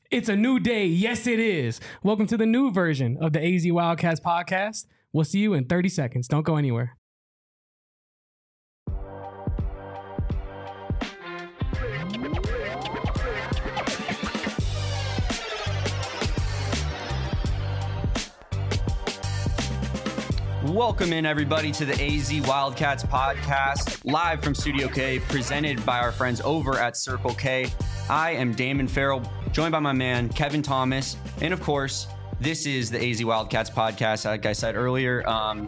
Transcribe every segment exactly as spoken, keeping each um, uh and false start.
It's a new day. Yes, it is. Welcome to the new version of the A Z Wildcats podcast. We'll see you in thirty seconds. Don't go anywhere. Welcome in, everybody, to the A Z Wildcats podcast, live from Studio K, presented by our friends over at Circle K. I am Damon Farrell, joined by my man, Kevin Thomas. And of course, this is the A Z Wildcats podcast, like I said earlier. Um,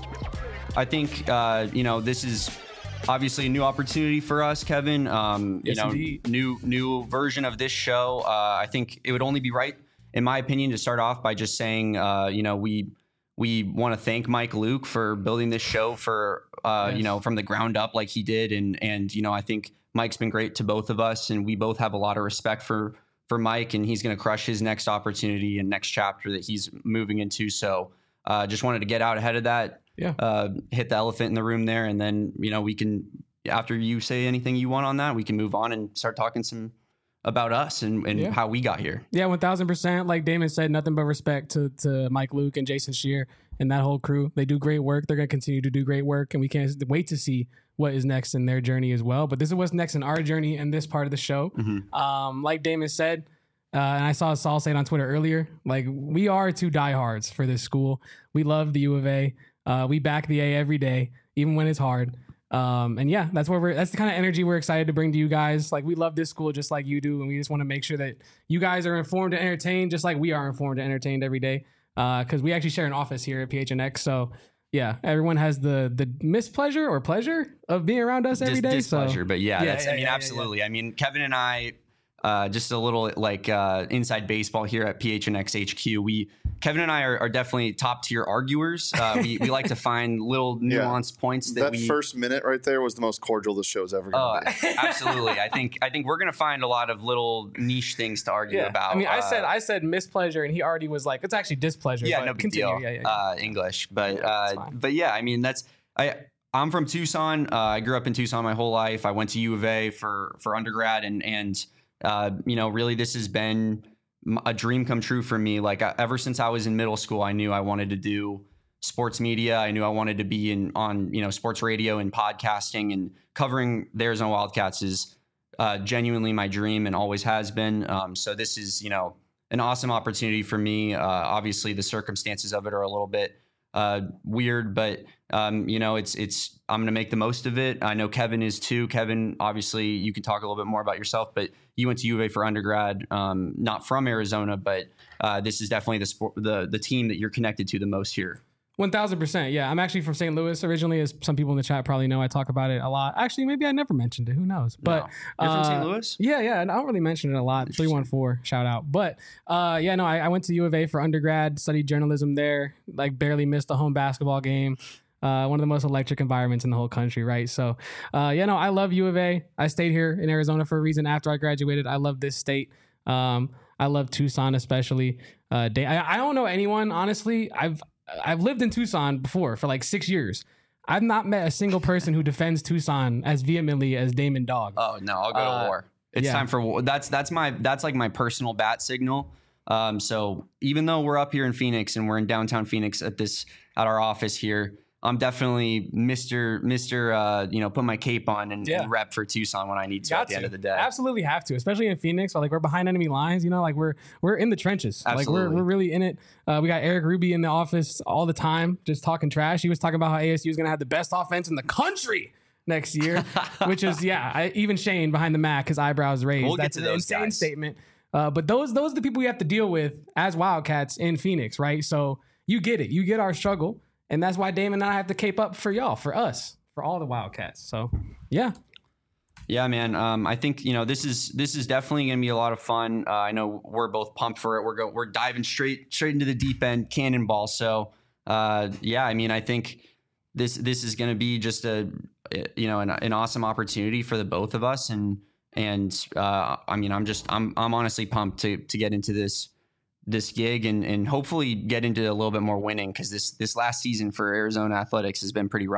I think, uh, you know, this is obviously a new opportunity for us, Kevin. Um, Yes, you know, indeed. new new version of this show. Uh, I think it would only be right, in my opinion, to start off by just saying, uh, you know, we we want to thank Mike Luke for building this show for, uh, Yes. you know, from the ground up like he did. And, and, you know, I think Mike's been great to both of us, and we both have a lot of respect for, for Mike, and he's going to crush his next opportunity and next chapter that he's moving into. So uh, just wanted to get out ahead of that, Yeah. uh, hit the elephant in the room there. And then, you know, we can, after you say anything you want on that, we can move on and start talking some about us and, and Yeah. how we got here. Yeah, one thousand percent. Like Damon said, nothing but respect to, to Mike Luke and Jason Shear and that whole crew. They do great work. They're going to continue to do great work, and we can't wait to see what is next in their journey as well. But this is what's next in our journey in this part of the show. Mm-hmm. Um, like Damon said, uh, and I saw Saul say it on Twitter earlier, like we are two diehards for this school. We love the U of A. Uh, we back the A every day, even when it's hard. Um, and yeah, that's where we're, that's the kind of energy we're excited to bring to you guys. Like we love this school just like you do. And we just want to make sure that you guys are informed and entertained just like we are informed and entertained every day. Uh, cause we actually share an office here at P H N X. So yeah, everyone has the, the mispleasure or pleasure of being around us every Dis- day. displeasure, So but yeah, Yeah, that's, yeah, I mean, yeah, yeah, absolutely. I mean, Kevin and I, uh, just a little like uh, inside baseball here at P H N X H Q. We, Kevin and I are, are definitely top tier arguers. Uh, we, we like to find little Yeah. nuanced points that, That we. first minute right there was the most cordial the show's ever Oh, going to be. absolutely. I think I think we're gonna find a lot of little niche things to argue yeah, about. I mean, I Uh, said, I said mispleasure and he already was like, it's actually displeasure. yeah, but no big continue. deal. Yeah, yeah, yeah. Uh, English, but Yeah, that's uh, fine. but yeah, I mean that's I. I'm from Tucson. Uh, I grew up in Tucson my whole life. I went to U of A for for undergrad, and and uh, you know, really, this has been m- a dream come true for me. Like I, ever since I was in middle school, I knew I wanted to do sports media. I knew I wanted to be in on you know sports radio and podcasting, and covering the Arizona Wildcats is uh, genuinely my dream and always has been. Um, so this is you know an awesome opportunity for me. Uh, obviously, the circumstances of it are a little bit uh, weird, but um, you know, it's it's. I'm going to make the most of it. I know Kevin is too. Kevin, obviously, you can talk a little bit more about yourself, but you went to U of A for undergrad, um, not from Arizona, but uh, this is definitely the sport, the the team that you're connected to the most here. One thousand percent. Yeah, I'm actually from Saint Louis originally, as some people in the chat probably know. I talk about it a lot. Actually, maybe I never mentioned it. Who knows? But No. You're from Saint uh, Louis? Yeah, yeah. And I don't really mention it a lot. three one four, shout out. But uh, yeah, no, I, I went to U of A for undergrad, studied journalism there. Like barely missed a home basketball game. Uh, one of the most electric environments in the whole country, right? So, uh, yeah, no, I love U of A. I stayed here in Arizona for a reason. After I graduated, I love this state. Um, I love Tucson, especially. Uh, day, I, I don't know anyone, honestly. I've I've lived in Tucson before for like six years. I've not met a single person who defends Tucson as vehemently as Damon Dog. Oh no, I'll go Uh, to war. It's yeah. time for war. That's that's my that's like my personal bat signal. Um, so even though we're up here in Phoenix and we're in downtown Phoenix at this at our office here, I'm definitely Mister Mister Uh, you know, put my cape on and, Yeah. and rep for Tucson when I need to Got at the to. end of the day. Absolutely have to, especially in Phoenix. Like we're behind enemy lines, you know, like we're we're in the trenches. Like we're Absolutely. we're really in it. Uh, we got Eric Ruby in the office all the time, just talking trash. He was talking about how A S U is going to have the best offense in the country next year, which is yeah. I, even Shane behind the Mac, his eyebrows raised. We'll get That's to an those insane guys. statement. Uh, but those those are the people we have to deal with as Wildcats in Phoenix, right? So you get it. You get our struggle. And that's why Damon and I have to cape up for y'all, for us, for all the Wildcats. So, yeah. Yeah, man. Um, I think you know this is this is definitely going to be a lot of fun. Uh, I know we're both pumped for it. We're go we're diving straight straight into the deep end, cannonball. So, uh, yeah, I mean, I think this this is going to be just a you know an, an awesome opportunity for the both of us. And and uh, I mean, I'm just I'm I'm honestly pumped to to get into this this gig and and hopefully get into a little bit more winning, because this this last season for Arizona athletics has been pretty rough.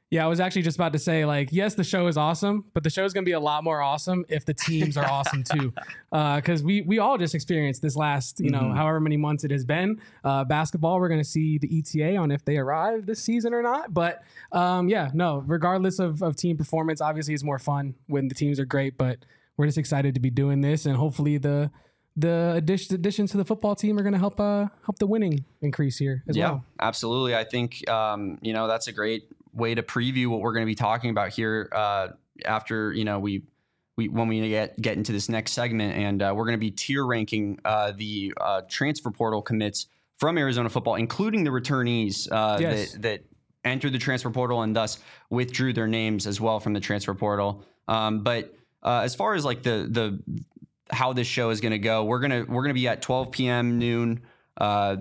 Yeah, I was actually just about to say, like, yes, the show is awesome, but the show is going to be a lot more awesome if the teams are awesome too. Because uh, we we all just experienced this last, you know, mm-hmm. however many months it has been. Uh, basketball, we're going to see the E T A on if they arrive this season or not. But um, yeah, no, regardless of, of team performance, obviously it's more fun when the teams are great. But we're just excited to be doing this, and hopefully the the addition, additions to the football team are going to help uh, help the winning increase here as yeah, well. Yeah, absolutely. I think um, you know that's a great way to preview what we're going to be talking about here uh, after, you know, we, we, when we get, get into this next segment, and uh, we're going to be tier ranking uh, the uh, transfer portal commits from Arizona football, including the returnees uh, yes. that, that entered the transfer portal and thus withdrew their names as well from the transfer portal. Um, but uh, as far as like the, the, how this show is going to go, we're going to, we're going to be at twelve p.m. noon, uh,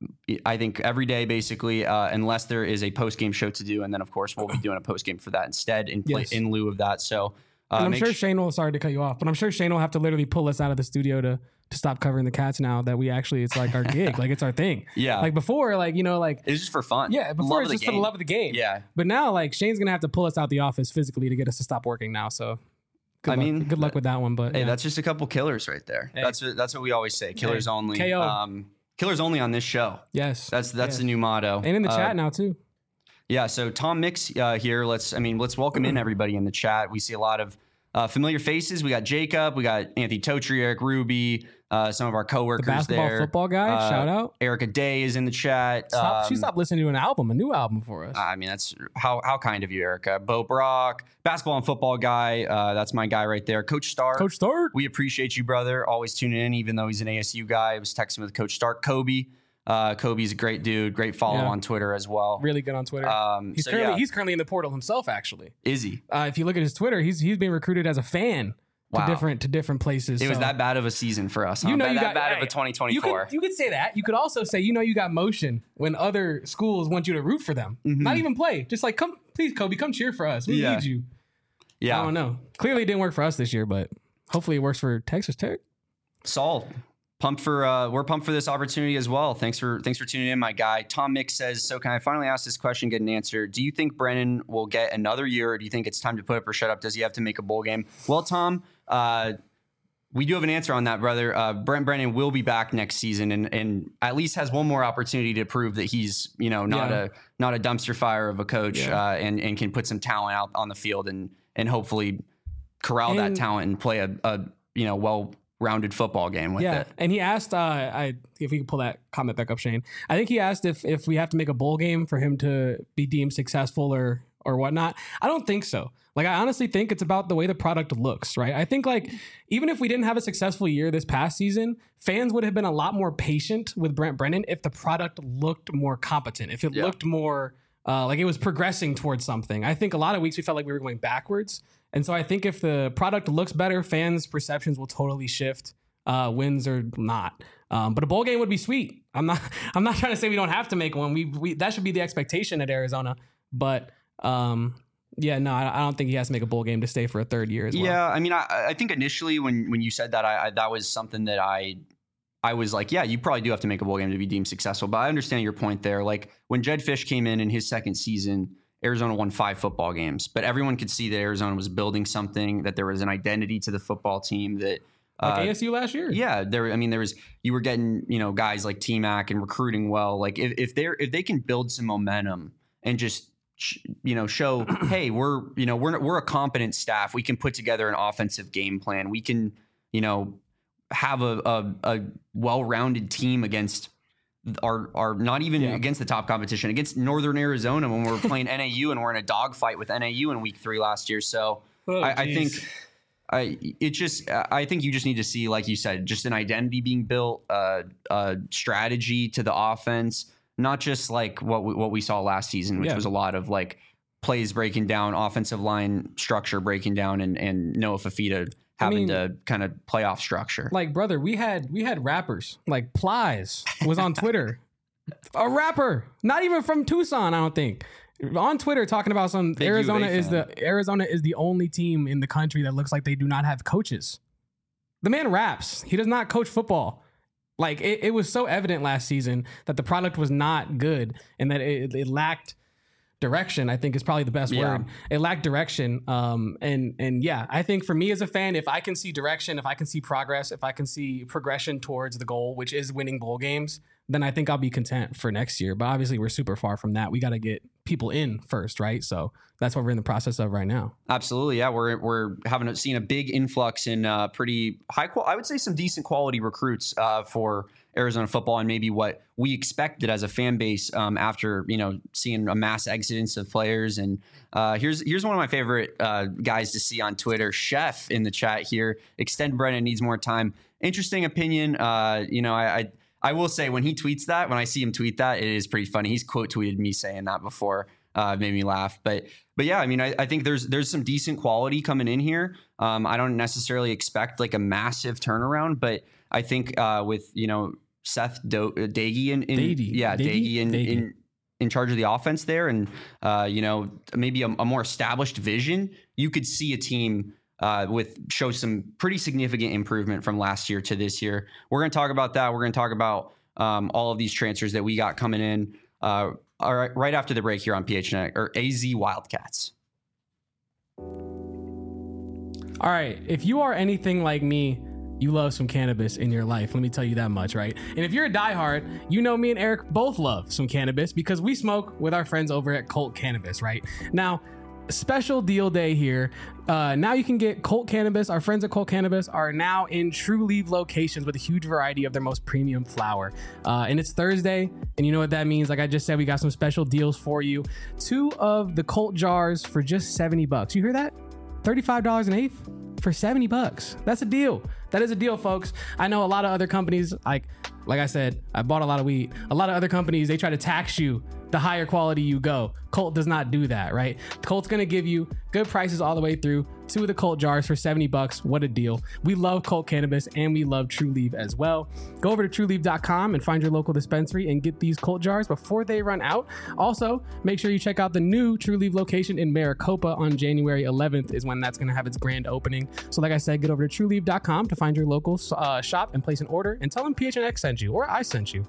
I think every day, basically, uh, unless there is a post game show to do, and then of course we'll be doing a post game for that instead, in play, yes. in lieu of that. So, uh, and I'm sure sh- Shane will. Sorry to cut you off, but I'm sure Shane will have to literally pull us out of the studio to to stop covering the Cats now that we actually it's like our gig, like it's our thing. Yeah, like before, like you know, like it's just for fun. Yeah, before it's just game. for the love of the game. Yeah, but now like Shane's gonna have to pull us out the office physically to get us to stop working now. So. Good I luck. mean, good luck with that one. But hey, yeah. that's just a couple killers right there. Hey. That's what, that's what we always say. Killers hey. only. K O. Um, killers only on this show. Yes, that's that's yes. the new motto. And in the uh, chat now too. Yeah. So Tom Mix uh, here. Let's. I mean, let's welcome in everybody in the chat. We see a lot of uh, familiar faces. We got Jacob. We got Anthony Totri, Eric Ruby. Uh, some of our coworkers the basketball there. Football guy. Uh, shout out. Erica Day is in the chat. Stop, um, she stopped listening to an album, a new album for us. I mean, that's how how kind of you, Erica. Bo Brock, basketball and football guy. Uh, that's my guy right there. Coach Stark. Coach Stark. We appreciate you, brother. Always tuning in, even though he's an A S U guy. I was texting with Coach Stark. Kobe. Uh, Kobe's a great dude. Great follow Yeah. on Twitter as well. Really good on Twitter. Um, he's so currently yeah. he's currently in the portal himself. Actually, is he? Uh, if you look at his Twitter, he's he's being recruited as a fan. To Wow. different to different places. It so. was that bad of a season for us. Huh? You know, that, you that got, bad hey, of a twenty You twenty-four. could, you could say that. You could also say, you know, you got motion when other schools want you to root for them, Mhm. not even play. Just like, come, please, Kobe, come cheer for us. We Yeah. need you. Yeah, I don't know. Clearly, it didn't work for us this year, but hopefully, it works for Texas Tech. Saul, pumped for uh, we're pumped for this opportunity as well. Thanks for thanks for tuning in, my guy. Tom Mix says, so can I finally ask this question, get an answer? Do you think Brennan will get another year, or do you think it's time to put up or shut up? Does he have to make a bowl game? Well, Tom, uh, we do have an answer on that, brother. Uh, Brent Brennan will be back next season, and and at least has one more opportunity to prove that he's, you know, not Yeah. a not a dumpster fire of a coach, Yeah. uh, and and can put some talent out on the field and and hopefully corral that And- talent and play a, a you know well rounded football game with Yeah, it. and he asked, uh, I if we could pull that comment back up, Shane. I think he asked if if we have to make a bowl game for him to be deemed successful or or whatnot. I don't think so. Like, I honestly think it's about the way the product looks, right? I think, like, even if we didn't have a successful year this past season, fans would have been a lot more patient with Brent Brennan if the product looked more competent, if it Yeah. looked more uh, like it was progressing towards something. I think a lot of weeks we felt like we were going backwards. And so I think if the product looks better, fans' perceptions will totally shift, uh, wins or not. Um, but a bowl game would be sweet. I'm not I'm not trying to say we don't have to make one. We, we that should be the expectation at Arizona. But um, yeah, no, I, I don't think he has to make a bowl game to stay for a third year as well. Yeah, I mean, I, I think initially when when you said that, I, I that was something that I I was like, yeah, you probably do have to make a bowl game to be deemed successful. But I understand your point there. Like when Jedd Fisch came in in his second season, Arizona won five football games, but everyone could see that Arizona was building something, that there was an identity to the football team that. Like Uh, A S U last year. yeah, there. I mean, there was you were getting you know guys like T-Mac and recruiting well. Like if if they're if they can build some momentum and just sh- you know show, hey, we're you know we're we're a competent staff. We can put together an offensive game plan. We can you know have a a, a well-rounded team against our our not even Yeah. against the top competition, against Northern Arizona when we're playing N A U and we're in a dogfight with N A U in week three last year. So Oh, I, I geez. think. I it just I think you just need to see, like you said, just an identity being built, uh, uh, strategy to the offense, not just like what we, what we saw last season, which Yeah. was a lot of like plays breaking down, offensive line structure breaking down, and and Noah Fafita having mean, to kind of playoff structure. Like, brother, we had we had rappers like Plies was on Twitter, a rapper, not even from Tucson, I don't think, on Twitter talking about some Big Arizona U of A is fan. the Arizona is the only team in the country that looks like they do not have coaches. The man raps. He does not coach football. Like it, it was so evident last season that the product was not good and that it, it lacked direction, I think is probably the best Yeah. word. It lacked direction. Um, and, and yeah, I think for me as a fan, if I can see direction, if I can see progress, if I can see progression towards the goal, which is winning bowl games, then I think I'll be content for next year. But obviously we're super far from that. We got to get people in first, right? So that's what we're in the process of right now. Absolutely, yeah. We're we're having a, seen a big influx in uh, pretty high qual. I would say some decent quality recruits uh, for Arizona football, and maybe what we expected as a fan base um, after you know seeing a mass exodus of players. And uh, here's here's one of my favorite uh, guys to see on Twitter, Chef in the chat here. Extend Brennan needs more time. Interesting opinion. Uh, you know, I. I I will say when he tweets that, when I see him tweet that, it is pretty funny. He's quote tweeted me saying that before, uh, made me laugh. But but yeah, I mean, I, I think there's there's some decent quality coming in here. Um, I don't necessarily expect like a massive turnaround, but I think uh, with you know Seth Do- Doege in, in Doege. yeah Doege? Doege in, Doege. in in charge of the offense there, and uh, you know maybe a, a more established vision, you could see a team. Uh, with show some pretty significant improvement from last year to this year. We're going to talk about that. We're going to talk about um, all of these transfers that we got coming in uh, all right, right after the break here on P H N X or A Z Wildcats. All right. If you are anything like me, you love some cannabis in your life. Let me tell you that much, right? And if you're a diehard, you know me and Eric both love some cannabis because we smoke with our friends over at Colt Cannabis, right? Now, special deal day here. Uh, now you can get Colt Cannabis. Our friends at Colt Cannabis are now in True Leaf locations with a huge variety of their most premium flower. Uh, and it's Thursday, and you know what that means. Like I just said, we got some special deals for you. Two of the Colt jars for just seventy bucks. You hear that? thirty-five dollars an eighth for seventy bucks. That's a deal. That is a deal, folks. I know a lot of other companies, like like I said, I bought a lot of weed. A lot of other companies, they try to tax you the higher quality you go. Colt does not do that, right? Colt's gonna give you good prices all the way through. Two of the Colt jars for seventy bucks. What a deal. We love Colt Cannabis and we love True Leaf as well. Go over to true leaf dot com and find your local dispensary and get these Colt jars before they run out. Also, make sure you check out the new True Leaf location in Maricopa on January eleventh is when that's gonna have its grand opening. So like I said, get over to true leaf dot com to find your local uh, shop and place an order and tell them P H N X sent you or I sent you.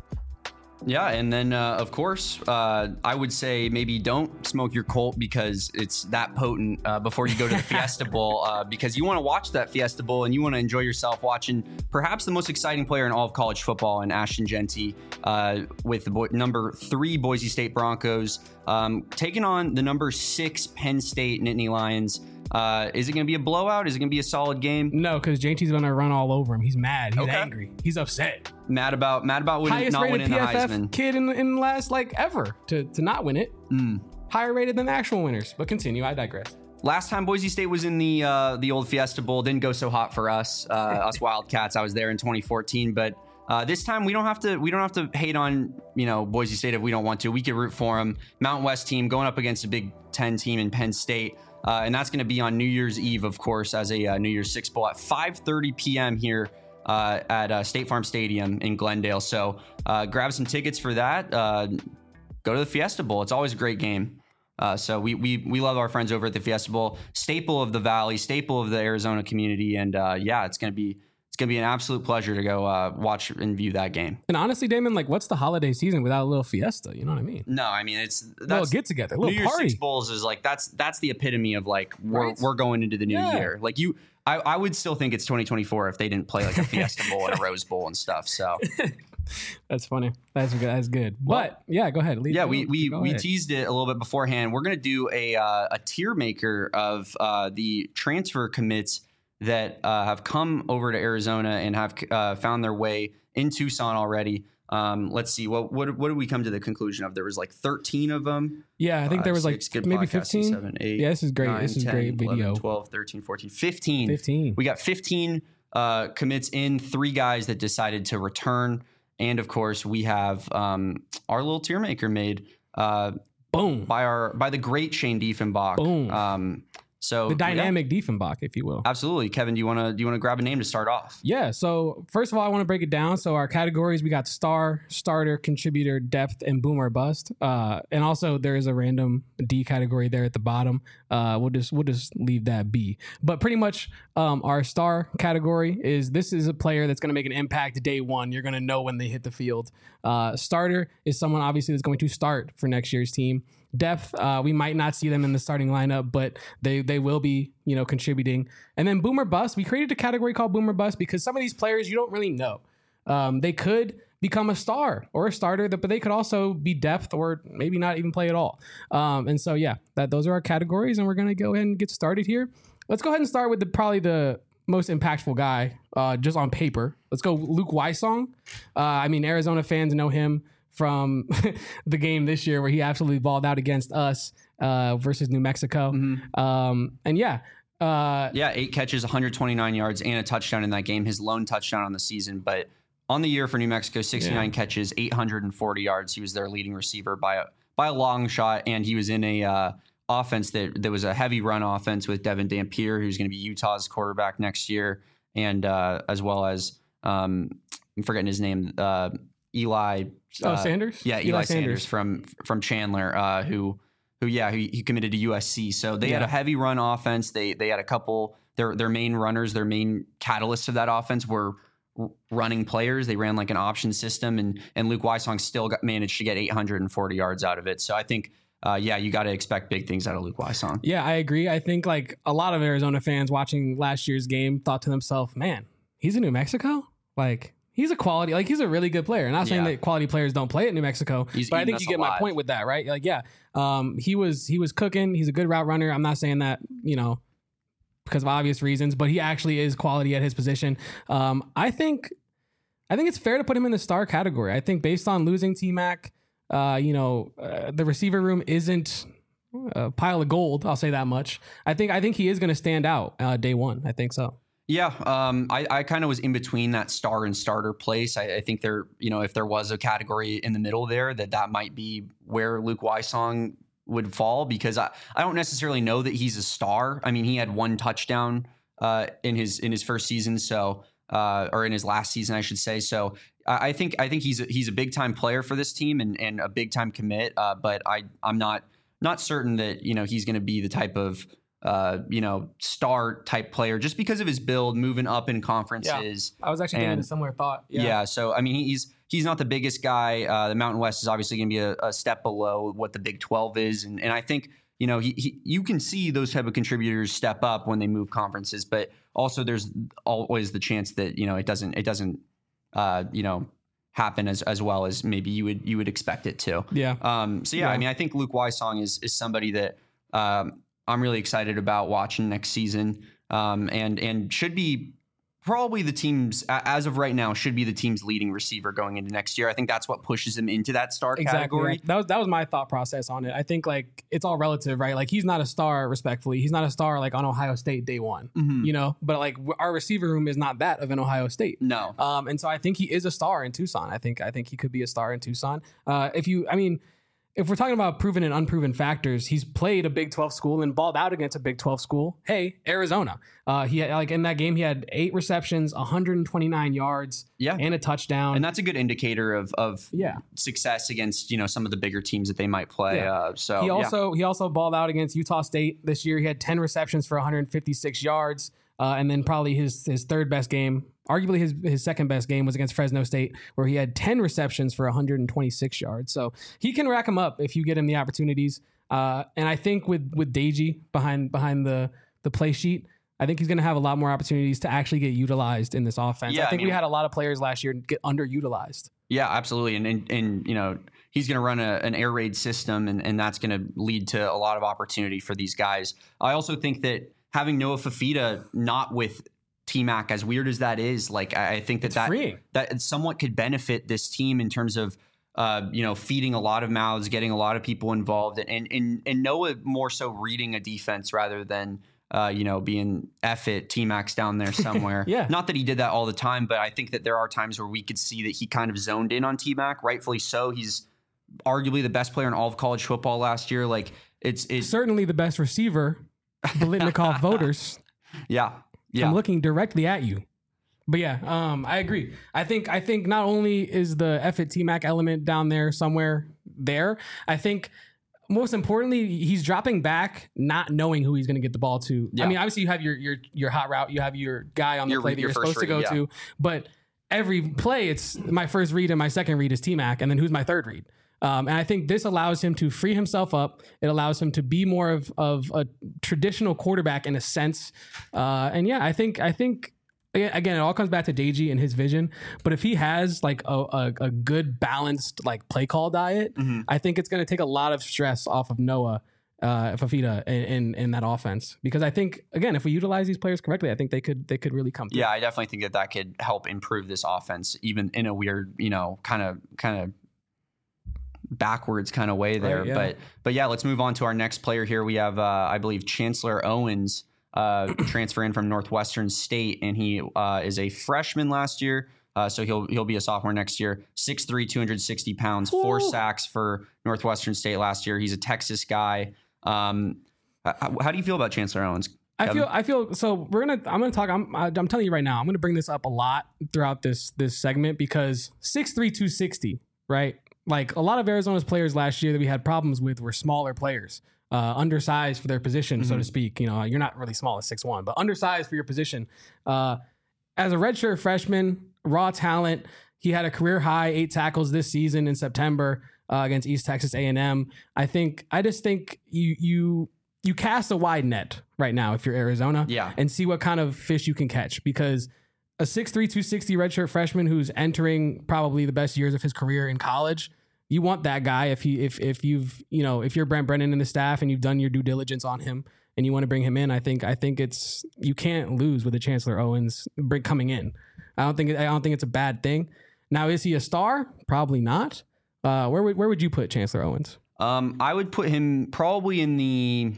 Yeah, and then uh, of course, uh, I would say maybe don't smoke your Colt because it's that potent uh, before you go to the Fiesta Bowl uh, because you want to watch that Fiesta Bowl and you want to enjoy yourself watching perhaps the most exciting player in all of college football in Ashton Jeanty uh, with the bo- number three Boise State Broncos um, taking on the number six Penn State Nittany Lions. Uh, is it going to be a blowout? Is it going to be a solid game? No, because Janty's going to run all over him. He's mad. He's Okay. angry. He's upset. Mad about mad about winning, Highest not rated winning P the F F Heisman. kid in, in the last like ever to, to not win it. Mm. Higher rated than the actual winners. But continue. I digress. Last time Boise State was in the uh, the old Fiesta Bowl, didn't go so hot for us, uh, us Wildcats. I was there in twenty fourteen, but uh, this time we don't have to we don't have to hate on you know Boise State if we don't want to. We could root for them. Mountain West team going up against a Big Ten team in Penn State. Uh, and that's going to be on New Year's Eve, of course, as a uh, New Year's Six Bowl at five thirty p.m. here uh, at uh, State Farm Stadium in Glendale. So uh, grab some tickets for that. Uh, go to the Fiesta Bowl. It's always a great game. Uh, so we we we love our friends over at the Fiesta Bowl, staple of the Valley, staple of the Arizona community, and uh, yeah, it's going to be it's going to be an absolute pleasure to go uh, watch and view that game. And honestly, Damon, like, what's the holiday season without a little fiesta? You know what I mean? No, I mean it's A little that's get together, a New little Year's party. Six Bowls is like that's that's the epitome of like we're Right? we're going into the new Yeah. year. Like you, I, I would still think it's twenty twenty-four if they didn't play like a Fiesta Bowl and a Rose Bowl and stuff. So That's funny. That's good. That's good. Well, but yeah, go ahead. Leave yeah, go- we we go we ahead. teased it a little bit beforehand. We're gonna do a uh, a tier maker of uh, the transfer commits that uh, have come over to Arizona and have uh, found their way in Tucson already. Um, let's see. What what what did we come to the conclusion of? There was like thirteen of them. Yeah, I think there was like Six, good maybe podcasting, fifteen. seven, eight, Yeah, this is great. nine, This is ten, great video. eleven, twelve, thirteen, fourteen, fifteen. fifteen. We got fifteen uh, commits in, three guys that decided to return. And of course, we have um, our little tier maker made uh, Boom. by our by the great Shane Diefenbach. Boom. Um, so The yeah, dynamic Diefenbach, if you will. absolutely, Kevin. Do you want to do you want to grab a name to start off? Yeah. So first of all, I want to break it down. So our categories, we got star, starter, contributor, depth, and boom or bust. Uh, and also there is a random D category there at the bottom. Uh, we'll just we'll just leave that be. But pretty much, um, our star category is this is a player that's going to make an impact day one. You're going to know when they hit the field. Uh, starter is someone obviously that's going to start for next year's team. depth. Uh, we might not see them in the starting lineup, but they they will be, you know, contributing. And then boomer bust. We created a category called boomer bust because some of these players you don't really know. Um, they could become a star or a starter, but they could also be depth or maybe not even play at all. Um, and so, yeah, that those are our categories, and we're going to go ahead and get started here. Let's go ahead and start with the probably the most impactful guy uh, just on paper. Let's go Luke Wysong. Uh, I mean, Arizona fans know him from the game this year where he absolutely balled out against us uh, versus New Mexico. Mm-hmm. Um, and yeah. Uh, yeah, eight catches, one hundred twenty-nine yards, and a touchdown in that game. His lone touchdown on the season. But on the year for New Mexico, sixty-nine yeah. catches, eight hundred forty yards. He was their leading receiver by a, by a long shot, and he was in a uh, offense that, that was a heavy run offense with Devin Dampier, who's going to be Utah's quarterback next year, and uh, as well as, um, I'm forgetting his name, uh, Eli. Oh, uh, Sanders? Yeah, Eli, Eli Sanders. Sanders from from Chandler, uh, who who yeah, he, he committed to U S C. So they yeah. had a heavy run offense. They they had a couple their their main runners, their main catalysts of that offense were r- running players. They ran like an option system, and and Luke Wysong still got, managed to get eight hundred forty yards out of it. So I think uh, yeah, you got to expect big things out of Luke Wysong. Yeah, I agree. I think like a lot of Arizona fans watching last year's game thought to themselves, "Man, he's in New Mexico? Like he's a quality, like he's a really good player." Not saying yeah. that quality players don't play at New Mexico, he's but I think you get alive. my point with that, right? Like, yeah, um, he was he was cooking. He's a good route runner. I'm not saying that, you know, because of obvious reasons, but he actually is quality at his position. Um, I think I think it's fair to put him in the star category. I think based on losing T-Mac, uh, you know, uh, the receiver room isn't a pile of gold. I'll say that much. I think I think he is going to stand out uh, day one. I think so. Yeah, um, I, I kind of was in between that star and starter place. I, I think there, you know, if there was a category in the middle there, that that might be where Luke Wysong would fall, because I, I don't necessarily know that he's a star. I mean, he had one touchdown uh, in his in his first season, so uh, or in his last season, I should say. So I, I think I think he's a, he's a big time player for this team and, and a big time commit. Uh, but I I'm not not certain that, you know, he's going to be the type of uh, you know, star type player just because of his build, moving up in conferences. Yeah, I was actually getting a similar thought. Yeah. yeah. So, I mean, he's, he's not the biggest guy. Uh, the Mountain West is obviously going to be a, a step below what the Big twelve is. And, and I think, you know, he, he, you can see those type of contributors step up when they move conferences, but also there's always the chance that, you know, it doesn't, it doesn't, uh, you know, happen as, as well as maybe you would, you would expect it to. Yeah. Um, so yeah, yeah. I mean, I think Luke Wysong is, is somebody that, um, I'm really excited about watching next season, um, and and should be probably the team's, as of right now, should be the team's leading receiver going into next year. I think that's what pushes him into that star exactly. category. Right. That was that was my thought process on it. I think like it's all relative, right? Like he's not a star, respectfully. He's not a star like on Ohio State day one, mm-hmm. you know. But like our receiver room is not that of an Ohio State. No. Um, and so I think he is a star in Tucson. I think I think he could be a star in Tucson. Uh, if you, I mean. If we're talking about proven and unproven factors, he's played a Big twelve school and balled out against a Big twelve school. Hey, Arizona. Uh, he had, like in that game, he had eight receptions, one hundred twenty-nine yards, yeah. and a touchdown. And that's a good indicator of of yeah. success against, you know, some of the bigger teams that they might play. Yeah. Uh, so he also yeah. he also balled out against Utah State this year. He had ten receptions for one hundred fifty-six yards, uh, and then probably his his third best game. Arguably his his second best game was against Fresno State, where he had ten receptions for one hundred twenty-six yards. So he can rack them up if you get him the opportunities. Uh, and I think with with Deji behind behind the the play sheet, I think he's going to have a lot more opportunities to actually get utilized in this offense. Yeah, I think I mean, we had a lot of players last year get underutilized. Yeah, absolutely. And and, and you know, he's going to run a, an air raid system, and, and that's going to lead to a lot of opportunity for these guys. I also think that having Noah Fafita not with T-Mac, as weird as that is, like I think that that, that somewhat could benefit this team in terms of uh, you know, feeding a lot of mouths, getting a lot of people involved, and and and Noah more so reading a defense rather than uh, you know, being F it, T-Mac's down there somewhere. yeah. Not that he did that all the time, but I think that there are times where we could see that he kind of zoned in on T-Mac, rightfully so. He's arguably the best player in all of college football last year. Like it's it's certainly the best receiver, Biletnikoff voters. Yeah. Yeah. I'm looking directly at you. But yeah, um, I agree. I think I think not only is the F it T-Mac element down there somewhere there, I think most importantly, he's dropping back not knowing who he's going to get the ball to. Yeah. I mean, obviously you have your your your hot route, you have your guy on the your, play that you're supposed read, to go yeah. to, but every play it's my first read and my second read is T-Mac, and then who's my third read? Um, and I think this allows him to free himself up. It allows him to be more of, of a traditional quarterback in a sense. Uh, and yeah, I think, I think, again, it all comes back to Deji and his vision. But if he has like a, a, a good balanced like play call diet, mm-hmm. I think it's going to take a lot of stress off of Noah uh, Fifita in, in in that offense. Because I think, again, if we utilize these players correctly, I think they could they could really come through. Yeah, I definitely think that that could help improve this offense, even in a weird, you know, kind of kind of backwards kind of way there. Right, yeah. But but yeah, let's move on to our next player here. We have, uh, I believe, Chancellor Owens. Uh, transfer in from Northwestern State, and he uh, is a freshman last year, uh, so he'll he'll be a sophomore next year. six three, two hundred sixty pounds, Ooh. four sacks for Northwestern State last year. He's a Texas guy. Um, how, how do you feel about Chancellor Owens, Kevin? I feel I feel so. We're gonna I'm gonna talk. I'm I'm telling you right now. I'm gonna bring this up a lot throughout this this segment because six three, two sixty, right? Like a lot of Arizona's players last year that we had problems with were smaller players. Uh, undersized for their position, mm-hmm. so to speak. You know, you're not really small at six one, but undersized for your position. Uh, as a redshirt freshman, raw talent, he had a career high eight tackles this season in September uh, against East Texas A and M. I think, I just think you you you cast a wide net right now if you're Arizona, yeah, and see what kind of fish you can catch because a six three, two sixty redshirt freshman who's entering probably the best years of his career in college. You want that guy if he if if you've you know if you're Brent Brennan and the staff and you've done your due diligence on him and you want to bring him in. I think I think it's you can't lose with the Chancellor Owens coming in. I don't think I don't think it's a bad thing. Now is he a star? Probably not. Uh, where would where would you put Chancellor Owens? Um, I would put him probably in the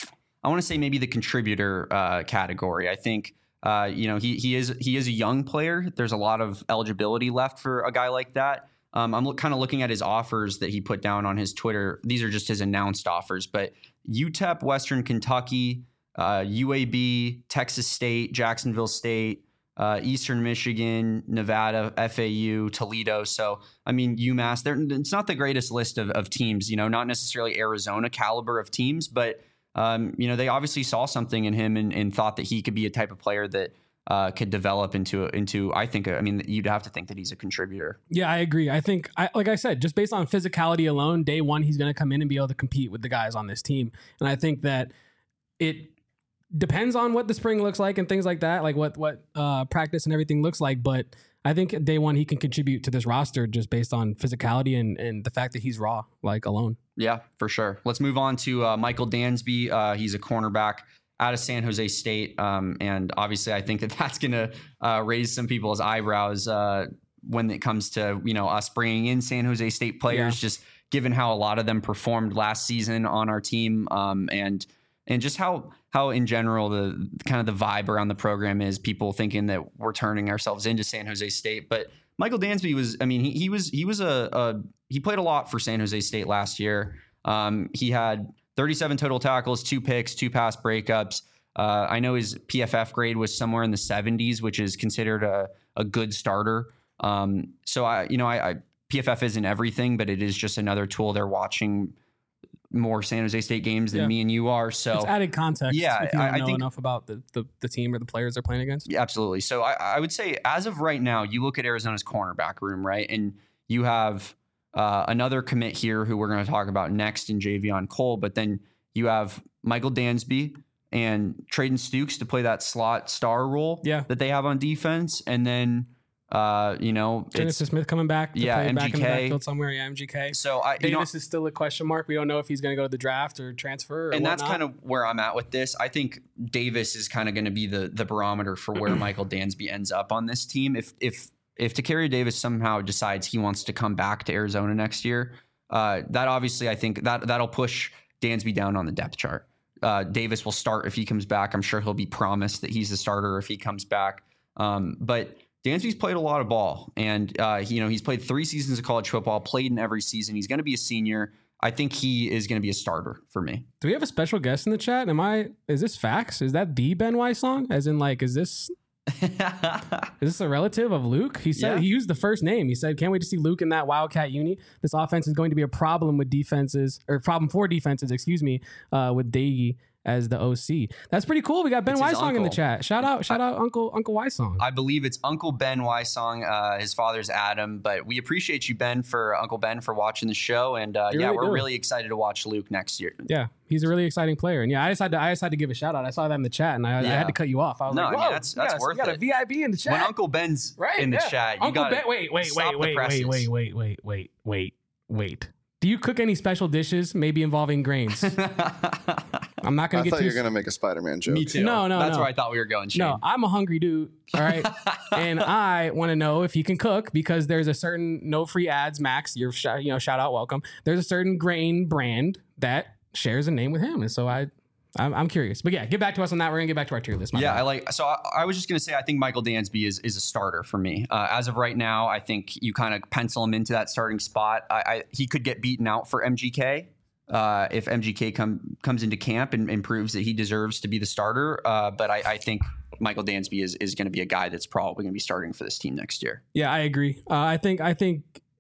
I want to say maybe the contributor uh, category. I think uh, you know he he is he is a young player. There's a lot of eligibility left for a guy like that. Um, I'm look, kind of looking at his offers that he put down on his Twitter. These are just his announced offers, but U T E P, Western Kentucky, uh, U A B, Texas State, Jacksonville State, uh, Eastern Michigan, Nevada, F A U, Toledo. So, I mean, UMass, it's not the greatest list of, of teams, you know, not necessarily Arizona caliber of teams, but, um, you know, they obviously saw something in him and, and thought that he could be a type of player that Uh, could develop into into. I think. I mean, you'd have to think that he's a contributor. Yeah, I agree. I think, I, like I said, just based on physicality alone, day one he's going to come in and be able to compete with the guys on this team. And I think that it depends on what the spring looks like and things like that, like what what uh, practice and everything looks like. But I think day one he can contribute to this roster just based on physicality and and the fact that he's raw, like alone. Yeah, for sure. Let's move on to uh, Michael Dansby. Uh, he's a cornerback out of San Jose State. Um, and obviously I think that that's going to uh, raise some people's eyebrows uh, when it comes to, you know, us bringing in San Jose State players, yeah. just given how a lot of them performed last season on our team. Um, and, and just how, how in general, the kind of the vibe around the program is people thinking that we're turning ourselves into San Jose State. But Michael Dansby was, I mean, he, he was, he was a, a, he played a lot for San Jose State last year. Um, he had thirty-seven total tackles, two picks, two pass breakups. Uh, I know his P F F grade was somewhere in the seventies, which is considered a, a good starter. Um, so I, you know, I, I P F F isn't everything, but it is just another tool. They're watching more San Jose State games than yeah. me and you are. So it's added context. Yeah, if you don't I, know I think enough about the, the the team or the players they're playing against. Yeah, absolutely. So I, I would say as of right now, you look at Arizona's cornerback room, right, and you have uh, another commit here who we're going to talk about next in Javion Cole, but then you have Michael Dansby and Traden Stukes to play that slot star role yeah. that they have on defense. And then, uh, you know, Genesis Smith coming back to yeah, play M G K. back in the backfield somewhere. Yeah, M G K. So I, Davis you know, is still a question mark. We don't know if he's going to go to the draft or transfer or And whatnot. that's kind of where I'm at with this. I think Davis is kind of going to be the the barometer for where Michael Dansby ends up on this team. If, if, if Takari Davis somehow decides he wants to come back to Arizona next year, uh, that obviously, I think that that'll push Dansby down on the depth chart. Uh, Davis will start if he comes back. I'm sure he'll be promised that he's the starter if he comes back. Um, but Dansby's played a lot of ball, and uh, he, you know he's played three seasons of college football, played in every season. He's going to be a senior. I think he is going to be a starter for me. Do we have a special guest in the chat? Am I? Is this facts? Is that the Ben Weiss song? As in, like, is this? Is this a relative of Luke? He said yeah. he used the first name. He said, "Can't wait to see Luke in that Wildcat uni. This offense is going to be a problem with defenses, or problem for defenses, excuse me, uh, with Daigie as the O C. That's pretty cool. We got Ben It's his Wysong in the uncle. chat. Shout out, shout out, Uncle Uncle Wysong. I believe it's Uncle Ben Wysong. Uh, his father's Adam, but we appreciate you, Ben, for Uncle Ben, for watching the show, and uh, You yeah, really we're do. really excited to watch Luke next year. Yeah, he's a really exciting player, and yeah, I decided to, I decided to give a shout out. I saw that in the chat, and I, I Yeah. had to cut you off. I was No, like, I mean, Whoa, that's- we that's got a- worth we got a it. V I B in the chat. When Uncle Ben's right in the yeah. chat, you Uncle got Ben. Wait, wait, stop wait, the wait, presses. wait, wait, wait, wait, wait, wait, wait. Do you cook any special dishes, maybe involving grains? I'm not I gonna get thought too. you were gonna make a Spider-Man joke. Me too. No, no, That's no. where I thought we were going, Shane. No, I'm a hungry dude. All right. And I want to know if he can cook because there's a certain no free ads, Max, your sh- you know, shout out, welcome. There's a certain grain brand that shares a name with him. And so I, I'm, I'm curious. But yeah, get back to us on that. We're going to get back to our tier list. My Yeah, bad. I like. So I, I was just gonna say, I think Michael Dansby is is a starter for me. Uh, as of right now, I think you kind of pencil him into that starting spot. I, I he could get beaten out for M G K uh, if M G K come comes into camp and, and proves that he deserves to be the starter. Uh, but I, I think Michael Dansby is is going to be a guy that's probably going to be starting for this team next year. Yeah, I agree. Uh, I think, I think,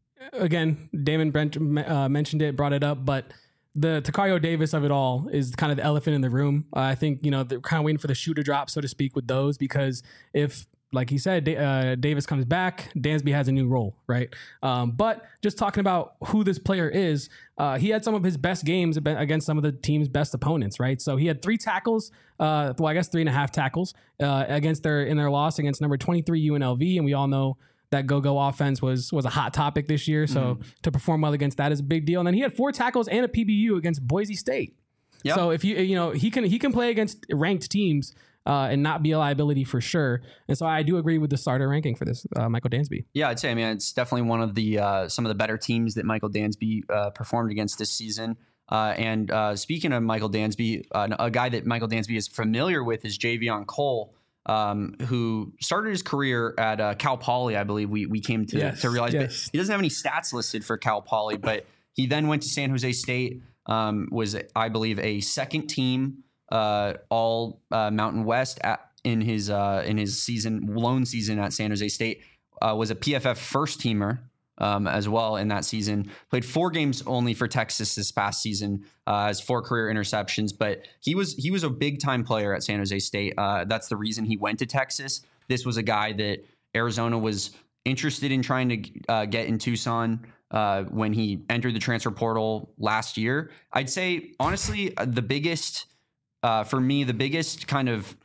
again, Damon Brent uh, mentioned it, brought it up, but the Takayo Davis of it all is kind of the elephant in the room. Uh, I think, you know, they're kind of waiting for the shoe to drop, so to speak, with those, because if, like he said, Da- uh, Davis comes back, Dansby has a new role, right? Um, but just talking about who this player is, uh, he had some of his best games ab- against some of the team's best opponents, right? So he had three tackles, uh, well, I guess three and a half tackles uh, against their in their loss against number twenty-three U N L V, and we all know that go-go offense was was a hot topic this year. So Mm-hmm. to perform well against that is a big deal. And then he had four tackles and a P B U against Boise State. Yep. So if you you know he can he can play against ranked teams uh, and not be a liability for sure. And so I do agree with the starter ranking for this uh, Michael Dansby. Yeah, I'd say, I mean, it's definitely one of the uh, some of the better teams that Michael Dansby uh, performed against this season. Uh, and uh, speaking of Michael Dansby, uh, a guy that Michael Dansby is familiar with is Javion Cole, um, who started his career at uh, Cal Poly, I believe we we came to, Yes, to realize. But yes. he doesn't have any stats listed for Cal Poly, but he then went to San Jose State, um, was, I believe, a second team uh, all uh, Mountain West at, in his uh, in his season, lone season at San Jose State, uh, was a P F F first teamer. Um, as well in that season, played four games only for Texas this past season, uh, has four career interceptions, but he was he was a big time player at San Jose State. Uh, that's the reason he went to Texas. This was a guy that Arizona was interested in trying to uh, get in Tucson uh, when he entered the transfer portal last year. I'd say honestly, uh, the biggest uh, for me, the biggest kind of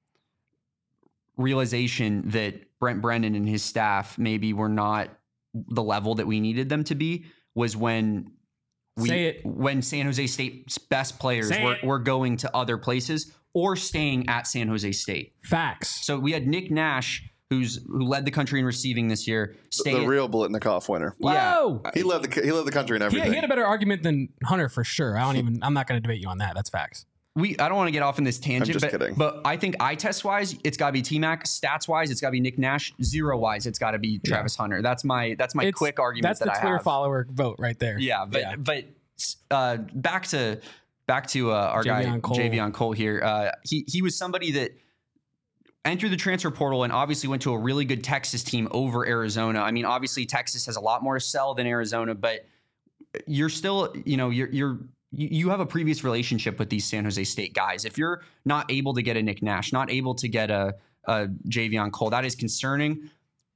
realization that Brent Brennan and his staff maybe were not the level that we needed them to be was when we Say it. when San Jose State's best players Say were, it. were going to other places or staying at San Jose State. Facts. So we had Nick Nash, who's who led the country in receiving this year. Stay The at- real bullet in the cough winner. yeah. Whoa. He led the he led the country in He, everything. he had a better argument than Hunter for sure. I don't even. I'm not going to debate you on that. That's facts. We I don't want to get off in this tangent, just but, kidding. but I think eye test wise, it's got to be T-Mac. Stats wise, it's got to be Nick Nash. Zero wise, it's got to be Travis Hunter. That's my that's my It's- quick argument That's that the I Twitter have. follower vote right there. Yeah, but Yeah. but uh, back to back to uh, our guy Javion Cole. Javion Cole here. Uh, he he was somebody that entered the transfer portal and obviously went to a really good Texas team over Arizona. I mean, obviously Texas has a lot more to sell than Arizona, but you're still, you know, you're you're you you have a previous relationship with these San Jose State guys. If you're not able to get a Nick Nash, not able to get a, a Javion Cole, that is concerning.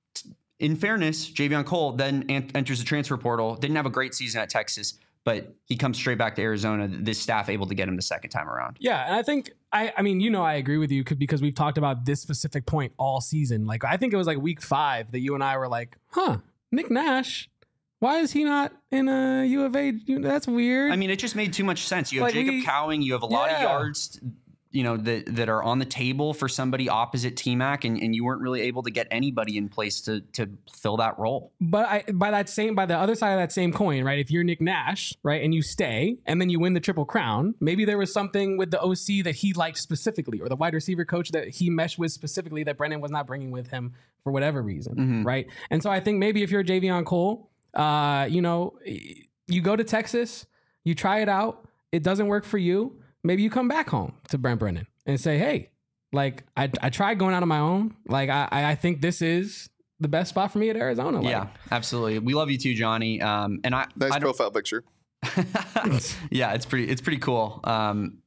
In fairness, Javion Cole then en- enters the transfer portal, didn't have a great season at Texas, but he comes straight back to Arizona. This staff able to get him the second time around. Yeah, and I think I I mean, you know, I agree with you 'cause- because we've talked about this specific point all season. Like I think it was like week five that you and I were like, "Huh, Nick Nash, why is he not in a U of A? That's weird." I mean, it just made too much sense. You have Like, Jacob we- Cowing, you have a lot of Yeah. yards, you know, that that are on the table for somebody opposite T-Mac, and, and you weren't really able to get anybody in place to to fill that role. But I, by that same, by the other side of that same coin, right? If you're Nick Nash, right, and you stay, and then you win the Triple Crown, maybe there was something with the O C that he liked specifically, or the wide receiver coach that he meshed with specifically that Brennan was not bringing with him for whatever reason, Mhm. right? And so I think maybe if you're Javion Cole, uh, you know, you go to Texas, you try it out, it doesn't work for you. Maybe you come back home to Brent Brennan and say, hey, like I, I tried going out on my own. Like I, I think this is the best spot for me at Arizona. Like, Yeah, absolutely. We love you too, Johnny. Um, and I, Nice I don't, profile picture. yeah, it's pretty, it's pretty cool. Um,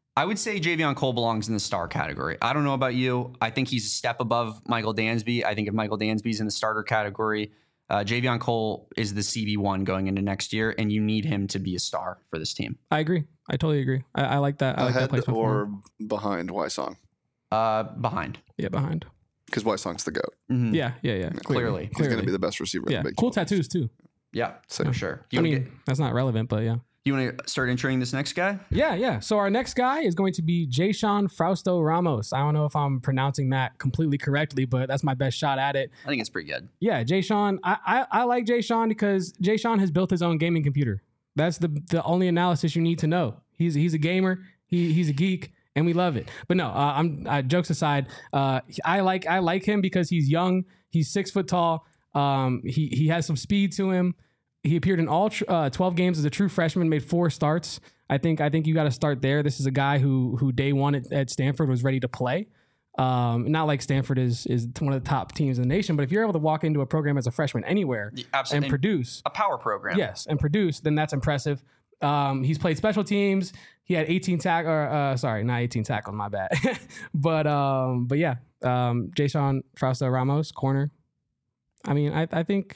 I would say Javion Cole belongs in the star category. I don't know about you. I think he's a step above Michael Dansby. I think if Michael Dansby's in the starter category, uh, Javion Cole is the C B one going into next year, and you need him to be a star for this team. I agree. I totally agree. I, I like that. I like that Ahead placement for or him. behind Wysong? Uh, behind. Yeah, behind. Because Wysong's the GOAT. Mhm. Yeah, yeah, yeah. Clearly. He's Clearly. going to be the best receiver Yeah, in the Big cool twelve. tattoos too. Yeah, So- for sure. You I wanna mean, get- that's not relevant, but yeah. you want to start introing this next guy? Yeah, yeah. So our next guy is going to be Jason Frausto Ramos. I don't know if I'm pronouncing that completely correctly, but that's my best shot at it. I think it's pretty good. Yeah, Jason. I, I, I like Jason because Jason has built his own gaming computer. That's the the only analysis you need to know. He's he's a gamer. He he's a geek, and we love it. But no, uh, I'm uh, jokes aside. Uh, I like I like him because he's young. He's six foot tall. Um, he he has some speed to him. He appeared in all tr- uh, twelve games as a true freshman. Made four starts. I think I think you got to start there. This is a guy who who day one at, at Stanford was ready to play. Um, not like Stanford is is one of the top teams in the nation, but if you're able to walk into a program as a freshman anywhere Absolutely. and produce, A power program. yes, and produce, then that's impressive. Um, he's played special teams. He had eighteen tack, or uh, sorry, not eighteen tackles. My bad. but um, but yeah, um, Jason Frausto Ramos, corner. I mean, I I think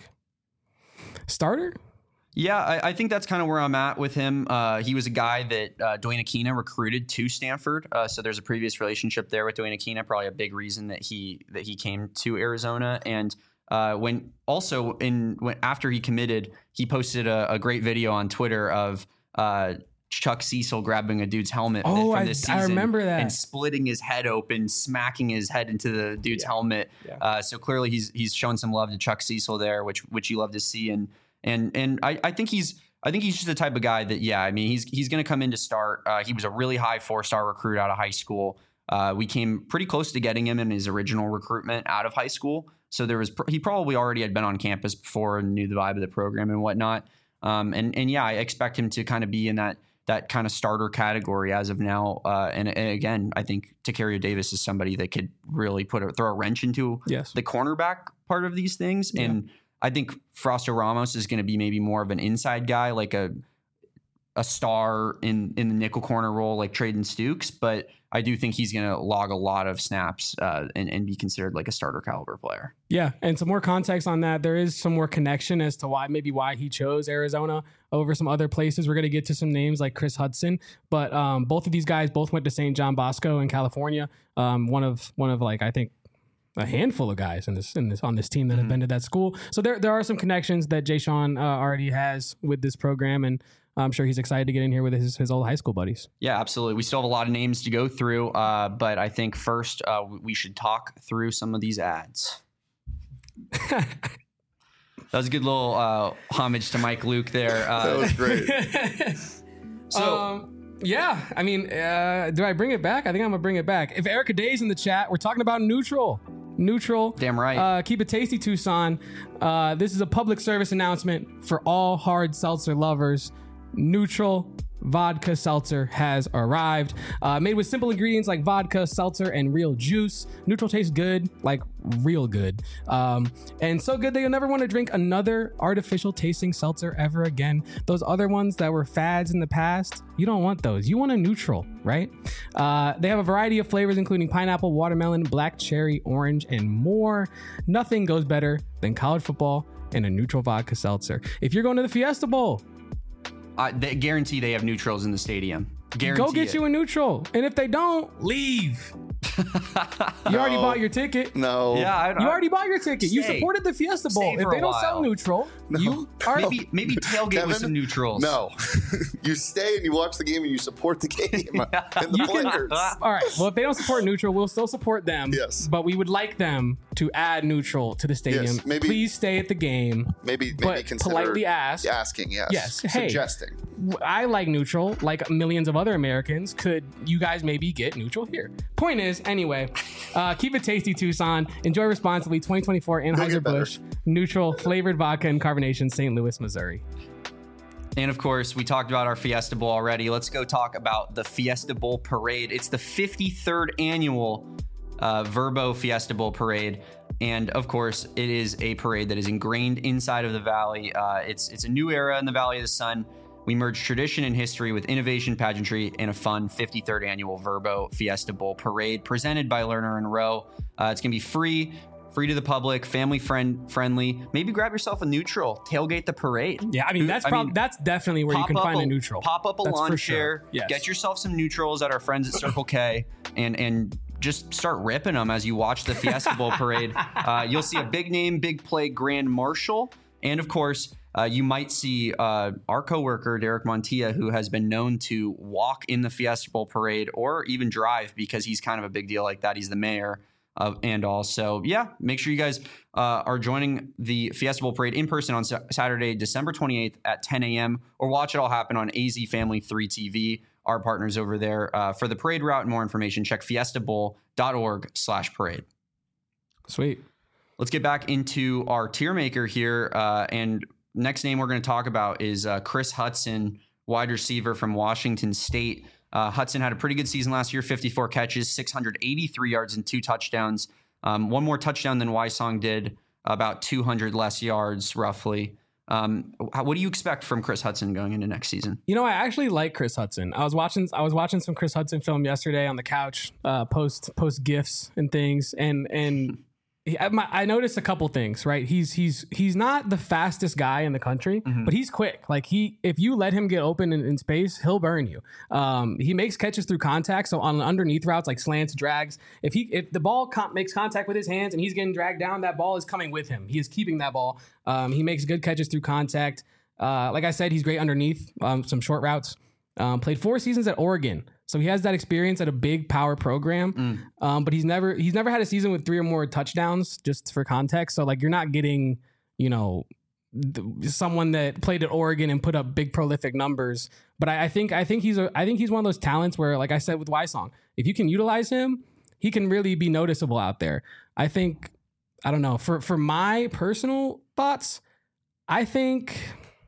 starter. Yeah, I, I think that's kind of where I'm at with him. Uh, he was a guy that uh, Dwayne Aquina recruited to Stanford, uh, so there's a previous relationship there with Dwayne Aquina. Probably a big reason that he that he came to Arizona. And uh, when also in when after he committed, he posted a, a great video on Twitter of uh, Chuck Cecil grabbing a dude's helmet Oh, from I- this I season remember that. and splitting his head open, smacking his head into the dude's Yeah. helmet. Yeah. Uh, so clearly he's he's shown some love to Chuck Cecil there, which which you love to see. And and and I, I think he's I think he's just the type of guy that yeah I mean he's he's going to come in to start. Uh, he was a really high four star recruit out of high school. Uh, we came pretty close to getting him in his original recruitment out of high school. So there was pr- he probably already had been on campus before and knew the vibe of the program and whatnot. Um, and and yeah, I expect him to kind of be in that that kind of starter category as of now. Uh, and, and again, I think Tacario Davis is somebody that could really put a, throw a wrench into Yes. the cornerback part of these things. Yeah. And I think Frausto Ramos is going to be maybe more of an inside guy, like a a star in in the nickel corner role, like Traden Stukes. But I do think he's going to log a lot of snaps uh, and, and be considered like a starter caliber player. Yeah, and some more context on that. There is some more connection as to why maybe why he chose Arizona over some other places. We're going to get to some names like Chris Hudson, but um, both of these guys both went to Saint John Bosco in California. Um, one of one of like I think a handful of guys in this in this on this team that have been to that school. So there there are some connections that Jay Sean uh, already has with this program, and I'm sure he's excited to get in here with his his old high school buddies. Yeah, absolutely. We still have a lot of names to go through, uh, but I think first uh, we should talk through some of these ads. That was a good little uh, homage to Mike Luke there. Uh, That was great. so um, yeah, I mean, uh, do I bring it back? I think I'm gonna bring it back. If Erica Day's in the chat, we're talking about neutral. Neutral. Damn right. Uh, keep it tasty, Tucson. Uh, this is a public service announcement for all hard seltzer lovers. Neutral vodka seltzer has arrived. Uh, made with simple ingredients like vodka, seltzer, and real juice. Neutral tastes good, like real good. Um, and so good that you'll never want to drink another artificial tasting seltzer ever again. Those other ones that were fads in the past, you don't want those. You want a neutral, right? Uh, they have a variety of flavors, including pineapple, watermelon, black cherry, orange, and more. Nothing goes better than college football and a neutral vodka seltzer. If you're going to the Fiesta Bowl, I they guarantee they have neutrals in the stadium. Guarantee go get it. you a neutral. And if they don't, leave. You already No. bought your ticket. No. Yeah, I, You already bought your ticket. You Stay. supported the Fiesta Bowl. Stay If for they a don't sell while. neutral, you are maybe maybe tailgate Kevin? with some neutrals. No. You stay and you watch the game and you support the game and the You can- players. All right. Well, if they don't support neutral, we'll still support them. Yes. But we would like them to add neutral to the stadium. Yes, maybe- Please stay at the game. Maybe, maybe But consider politely ask. asking, yes. Yes, hey. Suggesting. I like neutral, like millions of other Americans. Could you guys maybe get neutral here? Point is, anyway, uh, keep it tasty, Tucson. Enjoy responsibly. twenty twenty-four Anheuser-Busch Neutral Flavored Vodka and Carbonation, Saint Louis, Missouri. And of course, we talked about our Fiesta Bowl already. Let's go talk about the Fiesta Bowl Parade. It's the fifty-third annual uh, Verbo Fiesta Bowl Parade. And of course, it is a parade that is ingrained inside of the Valley. Uh, it's it's a new era in the Valley of the Sun. We merge tradition and history with innovation, pageantry, and a fun fifty-third annual Verbo Fiesta Bowl parade presented by Lerner and Rowe. Uh, it's going to be free, free to the public, family friend friendly. Maybe grab yourself a neutral, tailgate the parade. Yeah, I mean, that's I prob- mean, that's definitely where you can find a, a neutral. Pop up a that's lawn for chair, sure. Yes. Get yourself some neutrals at our friends at Circle K, and and just start ripping them as you watch the Fiesta Bowl parade. Uh, you'll see a big name, big play grand marshal, and of course, Uh, you might see uh, our coworker, Derek Montilla, who has been known to walk in the Fiesta Bowl parade or even drive because he's kind of a big deal like that. He's the mayor of and all. So, yeah, make sure you guys uh, are joining the Fiesta Bowl parade in person on sa- Saturday, December twenty-eighth at ten a.m. or watch it all happen on A Z Family three T V, our partners over there. Uh, for the parade route and more information, check fiestabowl.org slash parade. Sweet. Let's get back into our tier maker here uh, and next name we're going to talk about is uh, Chris Hudson, wide receiver from Washington State. Uh, Hudson had a pretty good season last year, fifty-four catches, six hundred eighty-three yards, and two touchdowns. Um, one more touchdown than Wysong did, about two hundred less yards, roughly. Um, how, what do you expect from Chris Hudson going into next season? You know, I actually like Chris Hudson. I was watching, I was watching some Chris Hudson film yesterday on the couch, uh, post post gifs and things, and and. He, I, my, I noticed a couple things, right? He's he's he's not the fastest guy in the country, mm-hmm. but he's quick. Like he, if you let him get open in, in space, he'll burn you. Um, he makes catches through contact, so on underneath routes like slants, drags. If he if the ball com- makes contact with his hands and he's getting dragged down, that ball is coming with him. He is keeping that ball. Um, he makes good catches through contact. Uh, like I said, he's great underneath um, some short routes. Um, played four seasons at Oregon. So he has that experience at a big power program, mm. um, but he's never he's never had a season with three or more touchdowns. Just for context, so like you're not getting you know th- someone that played at Oregon and put up big prolific numbers. But I, I think I think he's a I think he's one of those talents where, like I said with Wysong, if you can utilize him, he can really be noticeable out there. I think I don't know for for my personal thoughts, I think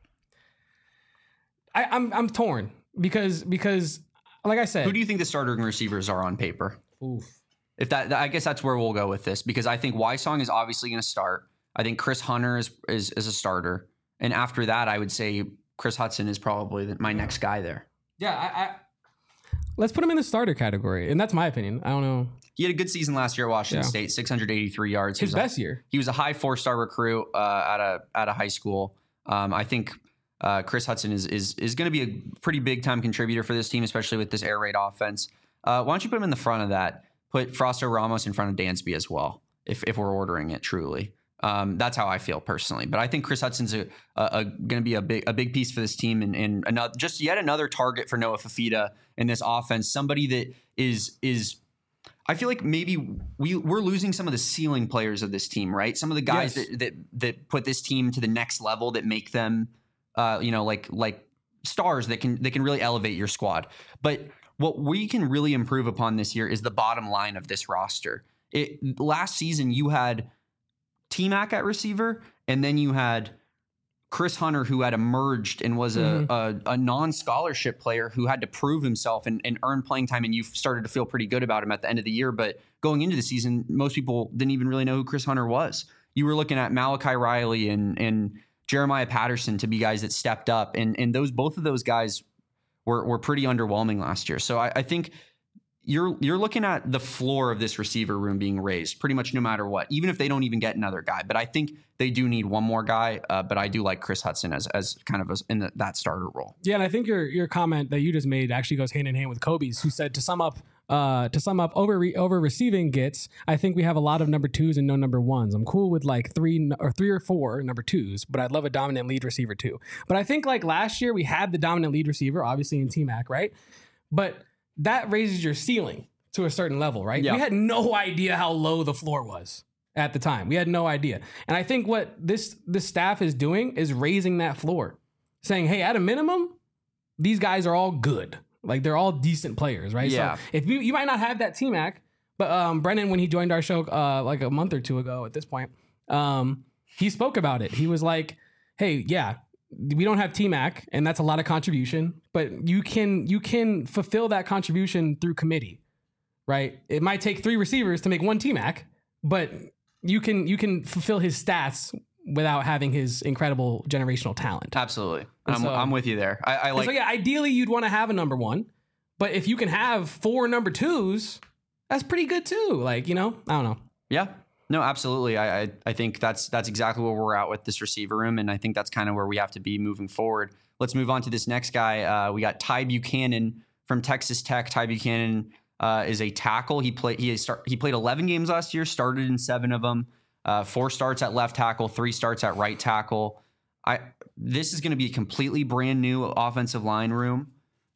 I, I'm I'm torn because because. Like I said, who do you think the starting receivers are on paper? Oof. If that, I guess that's where we'll go with this because I think Wysong is obviously going to start. I think Chris Hunter is, is is a starter, and after that, I would say Chris Hudson is probably the, my next guy there. Yeah, I, I let's put him in the starter category, and that's my opinion. I don't know. He had a good season last year at Washington yeah. State, six hundred eighty-three yards. His best a, year. He was a high four-star recruit uh, at a at a high school. Um, I think. Uh, Chris Hudson is is is going to be a pretty big time contributor for this team, especially with this air raid offense. Uh, why don't you put him in the front of that? Put Frosto Ramos in front of Dansby as well, if if we're ordering it truly. Um, that's how I feel personally. But I think Chris Hudson's a, a, a going to be a big a big piece for this team, and, and another, just yet another target for Noah Fifita in this offense. Somebody that is is. I feel like maybe we we're losing some of the ceiling players of this team, right? Some of the guys yes. that, that that put this team to the next level, that make them. Uh, you know, like like stars that can that can really elevate your squad. But what we can really improve upon this year is the bottom line of this roster. It, last season, you had T-Mac at receiver, and then you had Chris Hunter, who had emerged and was a, mm-hmm. a, a non-scholarship player who had to prove himself and, and earn playing time, and you started to feel pretty good about him at the end of the year. But going into the season, most people didn't even really know who Chris Hunter was. You were looking at Malachi Riley and and Jeremiah Patterson to be guys that stepped up, and and those both of those guys were were pretty underwhelming last year. So I, I think you're you're looking at the floor of this receiver room being raised pretty much no matter what, even if they don't even get another guy. But I think they do need one more guy. Uh, but I do like Chris Hudson as as kind of a, in the, that starter role. Yeah, and I think your your comment that you just made actually goes hand in hand with Kobe's, who said to sum up. Uh, to sum up, over re- over receiving gets, I think we have a lot of number twos and no number ones. I'm cool with like three or three or four number twos, but I'd love a dominant lead receiver too. But I think like last year we had the dominant lead receiver, obviously in T-Mac, right? But that raises your ceiling to a certain level, right? Yeah. We had no idea how low the floor was at the time. We had no idea. And I think what this this staff is doing is raising that floor, saying, hey, at a minimum, these guys are all good. Like they're all decent players, right? Yeah. So if you you might not have that T-Mac, but um, Brennan, when he joined our show uh, like a month or two ago at this point, um, he spoke about it. He was like, hey, yeah, we don't have T-Mac, and that's a lot of contribution, but you can you can fulfill that contribution through committee, right? It might take three receivers to make one T-Mac, but you can you can fulfill his stats without having his incredible generational talent. Absolutely. I'm, so, I'm with you there. I, I like. So yeah, ideally you'd want to have a number one, but if you can have four number twos, that's pretty good too. Like, you know, I don't know. Yeah. No, absolutely. I, I I think that's that's exactly where we're at with this receiver room, and I think that's kind of where we have to be moving forward. Let's move on to this next guy. Uh, we got Ty Buchanan from Texas Tech. Ty Buchanan uh, is a tackle. He played he start, he played eleven games last year, started in seven of them. Uh, four starts at left tackle, three starts at right tackle. I this is going to be a completely brand new offensive line room.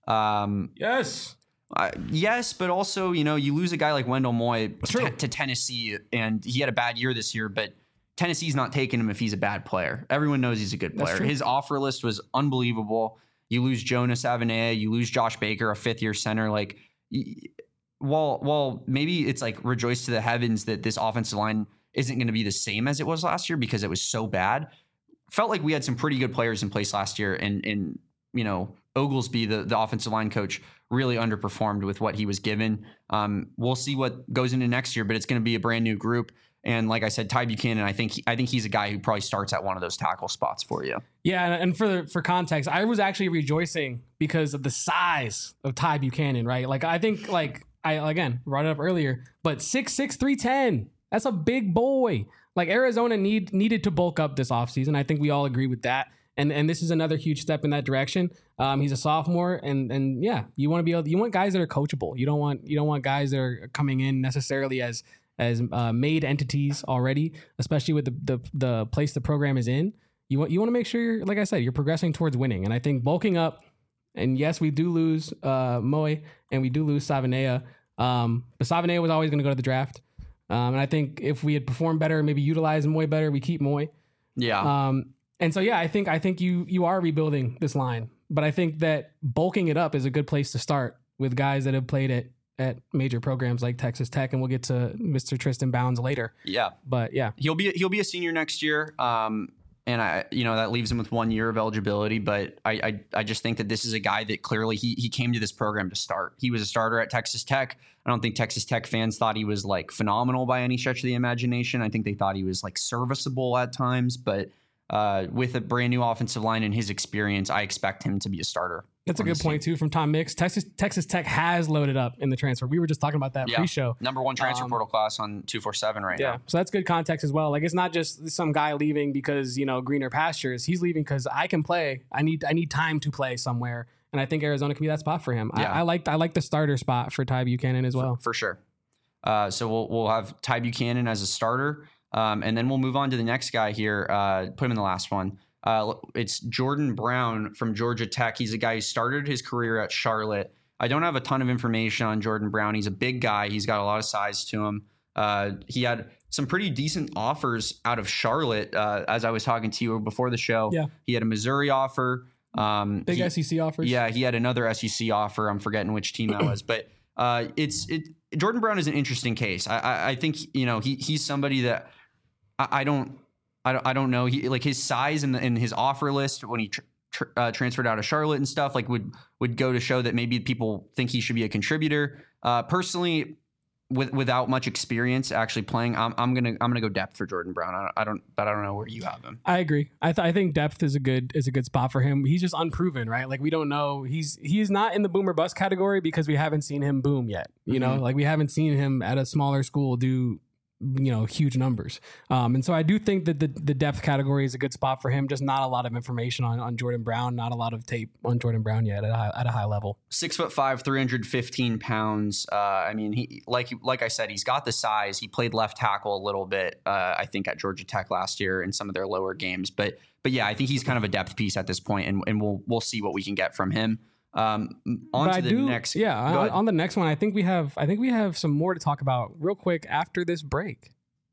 Um, yes. Uh, yes, but also, you know, you lose a guy like Wendell Moy True. t- to Tennessee, and he had a bad year this year, but Tennessee's not taking him if he's a bad player. Everyone knows he's a good player. His offer list was unbelievable. You lose Jonas Avenea, you lose Josh Baker, a fifth-year center. Like, y- while while maybe it's like rejoice to the heavens that this offensive line isn't going to be the same as it was last year because it was so bad. Felt like we had some pretty good players in place last year, and and you know, Oglesby, the, the offensive line coach, really underperformed with what he was given. Um, we'll see what goes into next year, but it's going to be a brand new group. And like I said, Ty Buchanan, I think he, I think he's a guy who probably starts at one of those tackle spots for you. Yeah, and for for context, I was actually rejoicing because of the size of Ty Buchanan, right? Like, I think, like, I, again, brought it up earlier, but six six, three ten, that's a big boy. Like, Arizona need needed to bulk up this offseason. I think we all agree with that. And and this is another huge step in that direction. Um, he's a sophomore, and and yeah, you want to be able. You want guys that are coachable. You don't want you don't want guys that are coming in necessarily as as uh, made entities already, especially with the, the the place the program is in. You want you want to make sure, you're, like I said, you're progressing towards winning. And I think bulking up. And yes, we do lose uh, Moy, and we do lose Savanea. Um, but Savanea was always going to go to the draft. Um, and I think if we had performed better, maybe utilized Moy better, we keep Moy. Yeah. Um, And so, yeah, I think I think you you are rebuilding this line, but I think that bulking it up is a good place to start with guys that have played at at major programs like Texas Tech, and we'll get to Mister Tristan Bounds later. Yeah, but yeah, he'll be he'll be a senior next year, um, and I you know that leaves him with one year of eligibility. But I, I I just think that this is a guy that clearly he he came to this program to start. He was a starter at Texas Tech. I don't think Texas Tech fans thought he was like phenomenal by any stretch of the imagination. I think they thought he was like serviceable at times, but. Uh, with a brand new offensive line and his experience, I expect him to be a starter. That's a good point too from Tom Mix. Texas Texas Tech has loaded up in the transfer. We were just talking about that yeah. pre-show. Number one transfer um, portal class on two forty-seven right yeah. now. So that's good context as well. Like, it's not just some guy leaving because, you know, greener pastures. He's leaving because I can play. I need I need time to play somewhere, and I think Arizona can be that spot for him. Yeah. I, I like I like the starter spot for Ty Buchanan as well. For, for sure. Uh, so we'll we'll have Ty Buchanan as a starter, um, and then we'll move on to the next guy here. Uh, put him in the last one. Uh, it's Jordan Brown from Georgia Tech. He's a guy who started his career at Charlotte. I don't have a ton of information on Jordan Brown. He's a big guy. He's got a lot of size to him. Uh, he had some pretty decent offers out of Charlotte. Uh, as I was talking to you before the show, yeah. He had a Missouri offer. Um, big he, S E C offers. Yeah, he had another S E C offer. I'm forgetting which team that was, but uh, it's it. Jordan Brown is an interesting case. I, I, I think you know he he's somebody that I, I don't. I don't, I don't know. He like his size and in, in his offer list when he tr- tr- uh, transferred out of Charlotte and stuff like would would go to show that maybe people think he should be a contributor. Uh, personally, with without much experience actually playing, I'm I'm gonna I'm gonna go depth for Jordan Brown. I don't, I don't but I don't know where you have him. I agree. I th- I think depth is a good is a good spot for him. He's just unproven, right? Like, we don't know. He's he's not in the boomer bust category because we haven't seen him boom yet. You mm-hmm. know, like we haven't seen him at a smaller school do. You know, huge numbers. Um, and so I do think that the, the depth category is a good spot for him. Just not a lot of information on, on Jordan Brown, not a lot of tape on Jordan Brown yet at a high, at a high level. Six foot five, three hundred fifteen pounds. Uh, I mean, he like like I said, he's got the size. He played left tackle a little bit, uh, I think, at Georgia Tech last year in some of their lower games. But but yeah, I think he's kind of a depth piece at this point, and and we'll we'll see what we can get from him. Um, on but to I the do, next. Yeah, on, on the next one, I think we have I think we have some more to talk about real quick after this break.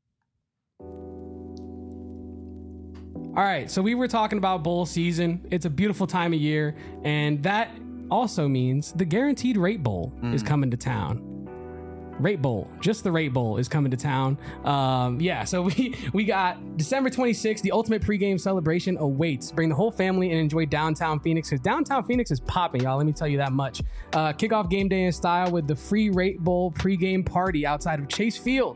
All right, so we were talking about bowl season. It's a beautiful time of year, and that also means the Guaranteed Rate Bowl mm. is coming to town. Rate Bowl, just the Rate Bowl is coming to town. Um, yeah, so we we got December twenty-sixth, the ultimate pregame celebration awaits. Bring the whole family and enjoy downtown Phoenix, because downtown Phoenix is popping, y'all. Let me tell you that much. Uh, kick off game day in style with the free Rate Bowl pregame party outside of Chase Field.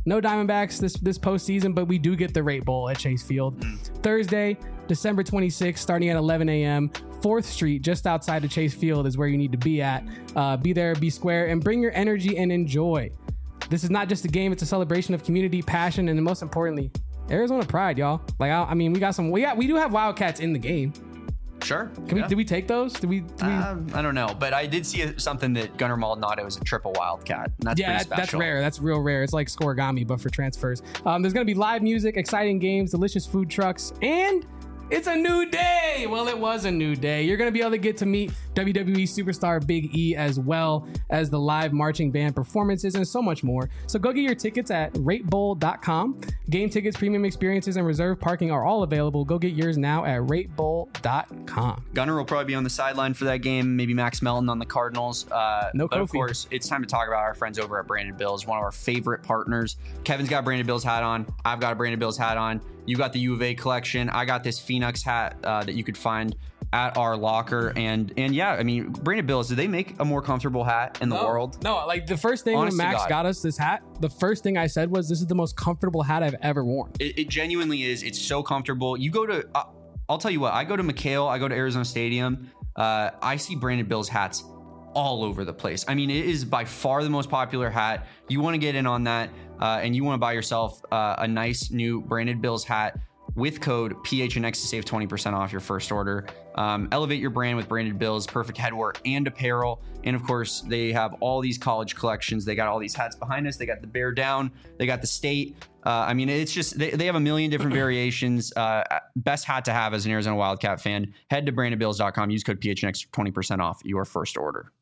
no Diamondbacks this this postseason, but we do get the Rate Bowl at Chase Field. Mm. Thursday, December twenty-sixth, starting at eleven a.m. fourth Street, just outside of Chase Field, is where you need to be at. Uh, be there, be square, and bring your energy and enjoy. This is not just a game; it's a celebration of community, passion, and most importantly, Arizona pride, y'all. Like, I, I mean, we got some. We got we do have Wildcats in the game. Sure. Can yeah. we? Did we take those? Did we? Did we Um, I don't know, but I did see something that Gunnar Maldonado is a triple Wildcat. And that's yeah, pretty that, special. that's rare. That's real rare. It's like Scorigami, but for transfers. Um, there's going to be live music, exciting games, delicious food trucks, and it's a new day. Well, it was a new day. You're going to be able to get to meet W W E superstar Big E, as well as the live marching band performances and so much more. So go get your tickets at rate bowl dot com. Game tickets, premium experiences, and reserved parking are all available. Go get yours now at rate bowl dot com. Gunnar will probably be on the sideline for that game. Maybe Max Melton on the Cardinals. Uh, No but of Kofi. course, it's time to talk about our friends over at Branded Bills, one of our favorite partners. Kevin's got a Branded Bills hat on. I've got a Branded Bills hat on. You got the U of A collection. I got this Phoenix hat uh, that you could find at our locker. And and yeah, I mean, Branded Bills, do they make a more comfortable hat in the No, world? No, like the first thing Honest to when Max God. got us this hat, the first thing I said was, this is the most comfortable hat I've ever worn. It, it genuinely is. It's so comfortable. You go to, uh, I'll tell you what, I go to McHale, I go to Arizona Stadium. Uh, I see Branded Bills hats all over the place. I mean, it is by far the most popular hat. You want to get in on that, uh, and you want to buy yourself uh, a nice new Branded Bills hat with code P H N X to save twenty percent off your first order. Um, elevate your brand with Branded Bills, perfect headwear and apparel. And of course, they have all these college collections. They got all these hats behind us. They got the Bear Down. They got the State. Uh, I mean, it's just, they, they have a million different variations. Uh, best hat to have as an Arizona Wildcat fan. Head to branded bills dot com. Use code P H N X for twenty percent off your first order.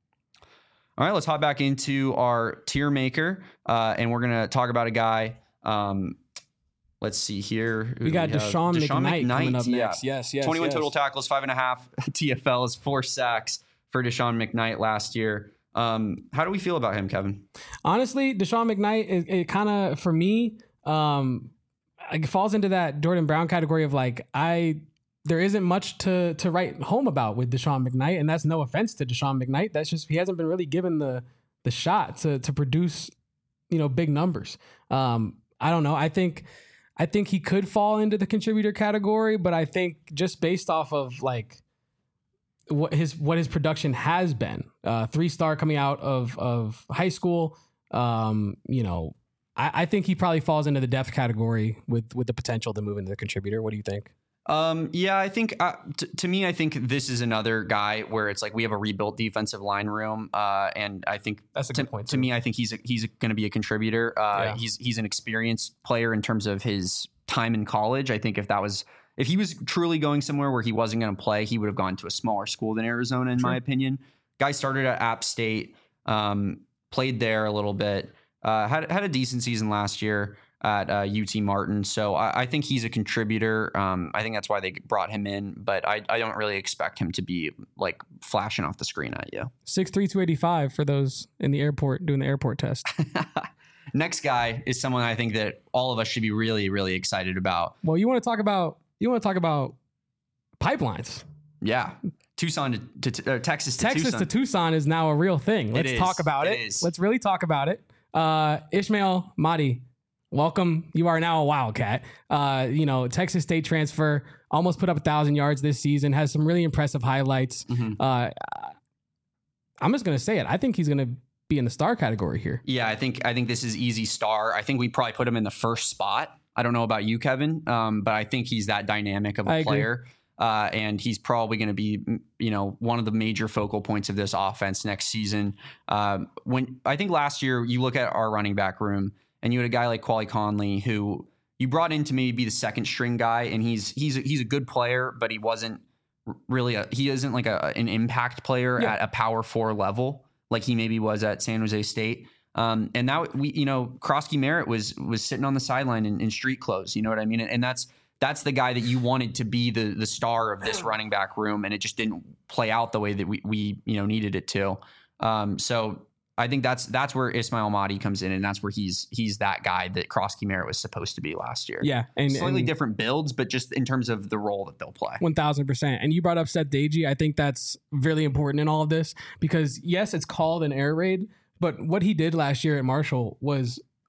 All right, let's hop back into our tier maker. Uh, and we're going to talk about a guy. Um, Let's see here. Who We do got have? Deshaun, McKnight, coming up yeah. next. Yes, yes, twenty-one yes. total tackles, five and a half T F Ls, four sacks for Deshaun McKnight last year. Um, how do we feel about him, Kevin? Honestly, Deshaun McKnight, it, it kind of, for me, um, it falls into that Jordan Brown category of like, I there isn't much to to write home about with Deshaun McKnight, and that's no offense to Deshaun McKnight. That's just, he hasn't been really given the the shot to to produce, you know, big numbers. Um, I don't know. I think. I think he could fall into the contributor category, but I think just based off of like what his what his production has been, uh, three star coming out of of high school, um, you know, I, I think he probably falls into the depth category with with the potential to move into the contributor. What do you think? Um, yeah, I think uh, t- to me, I think this is another guy where it's like we have a rebuilt defensive line room, uh, and I think That's a to, good point, to too. me, I think he's a, he's going to be a contributor. Uh, Yeah. He's he's an experienced player in terms of his time in college. I think if that was if he was truly going somewhere where he wasn't going to play, he would have gone to a smaller school than Arizona, in True. my opinion. Guy started at App State, um, played there a little bit, uh, had had a decent season last year at uh, U T Martin. So I, I think he's a contributor. Um, I think that's why they brought him in, but I, I don't really expect him to be like flashing off the screen at you. six three, two eighty-five for those in the airport doing the airport test. Next guy is someone I think that all of us should be really, really excited about. Well, you want to talk about you want to talk about pipelines. Yeah. Tucson to, to uh, Texas to Texas Tucson. to Tucson is now a real thing. Let's is. talk about It it. is. Let's really talk about it. Uh, Ishmael Mahdi, welcome. You are now a Wildcat. Uh, you know, Texas State transfer, almost put up a thousand yards this season, has some really impressive highlights. Mhm. Uh, I'm just going to say it. I think he's going to be in the star category here. Yeah, I think I think this is easy star. I think we probably put him in the first spot. I don't know about you, Kevin, um, but I think he's that dynamic of a I agree. player. Uh, and he's probably going to be, you know, one of the major focal points of this offense next season. Um, when I think last year you look at our running back room and you had a guy like Quali Conley who you brought in to maybe be the second string guy, and he's he's a, he's a good player, but he wasn't really a, he isn't like a, an impact player Yeah. at a power four level like he maybe was at San Jose State. Um, and now we, you know, Krosky Merritt was was sitting on the sideline in, in street clothes. You know what I mean? And, and that's that's the guy that you wanted to be the the star of this running back room, and it just didn't play out the way that we we you know needed it to. Um, so I think that's that's where Ismail Mahdi comes in, and that's where he's he's that guy that Krosky Merritt was supposed to be last year. Yeah. And Slightly and different builds, but just in terms of the role that they'll play. one thousand percent. And you brought up Seth Deji. I think that's really important in all of this because, yes, it's called an air raid, but what he did last year at Marshall was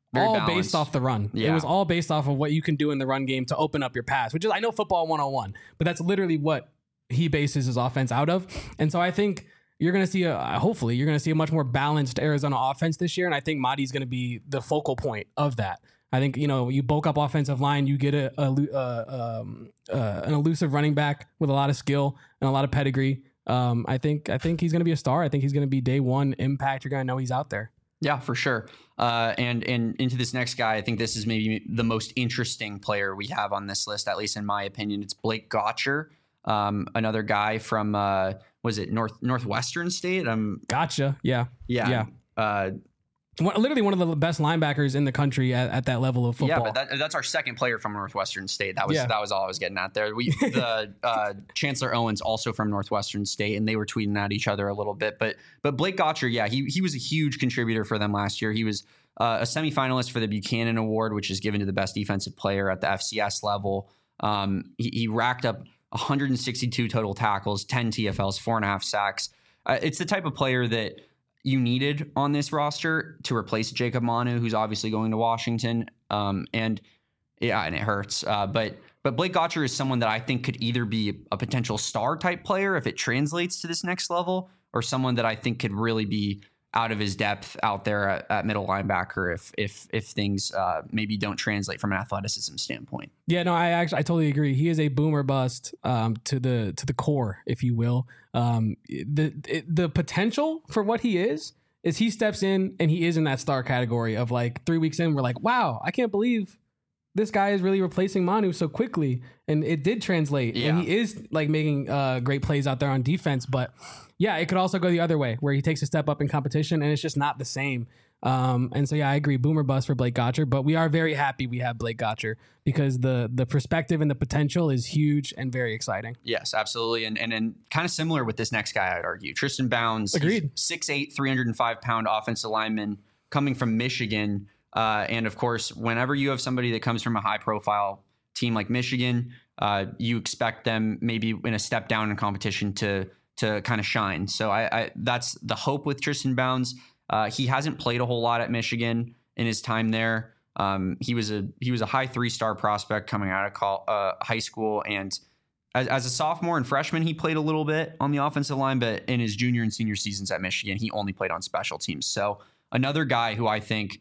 Very all balanced. based off the run. Yeah. It was all based off of what you can do in the run game to open up your pass, which is, I know football one oh one, but that's literally what he bases his offense out of. And so I think you're going to see, a, hopefully, you're going to see a much more balanced Arizona offense this year. And I think Madi's going to be the focal point of that. I think, you know, you bulk up offensive line, you get a, a, a um, uh, an elusive running back with a lot of skill and a lot of pedigree. Um, I think I think he's going to be a star. I think he's going to be day one impact. You're going to know he's out there. Yeah, for sure. Uh, and and into this next guy, I think this is maybe the most interesting player we have on this list, at least in my opinion. It's Blake Gotcher, um, another guy from uh, was it North Northwestern State? Um, Gotcha. Yeah. yeah, Yeah. Uh, One, literally one of the best linebackers in the country at, at that level of football. Yeah, but that, that's our second player from Northwestern State. That was Yeah. that was all I was getting at there. We the uh, Chancellor Owens also from Northwestern State, and they were tweeting at each other a little bit. But but Blake Gotcher, yeah, he he was a huge contributor for them last year. He was uh, a semifinalist for the Buchanan Award, which is given to the best defensive player at the F C S level. Um, he, he racked up one hundred sixty-two total tackles, ten T F Ls, four and a half sacks. Uh, it's the type of player that you needed on this roster to replace Jacob Manu, who's obviously going to Washington. Um, and yeah, and it hurts. Uh, but but Blake Gotcher is someone that I think could either be a potential star type player if it translates to this next level, or someone that I think could really be out of his depth out there at, at middle linebacker if if if things uh, maybe don't translate from an athleticism standpoint. Yeah, no, I actually I totally agree. He is a boomer bust um, to the to the core, if you will. Um, the it, the potential for what he is is he steps in and he is in that star category of like three weeks in, we're like, wow, I can't believe this guy is really replacing Manu so quickly, and it did translate. Yeah. And he is like making uh, great plays out there on defense, but yeah, it could also go the other way where he takes a step up in competition and it's just not the same. Um, and so, yeah, I agree. Boomer bust for Blake Gotcher, but we are very happy we have Blake Gotcher because the the perspective and the potential is huge and very exciting. Yes, absolutely. And and, and kind of similar with this next guy, I'd argue. Tristan Bounds. Agreed. six eight, three hundred five pound offensive lineman coming from Michigan. Uh, and of course, whenever you have somebody that comes from a high profile team like Michigan, uh, you expect them maybe in a step down in competition to to kind of shine. So I, I that's the hope with Tristan Bounds. Uh, he hasn't played a whole lot at Michigan in his time there. Um, he was a he was a high three star prospect coming out of call, uh, high school, and as, as a sophomore and freshman, he played a little bit on the offensive line. But in his junior and senior seasons at Michigan, he only played on special teams. So another guy who I think,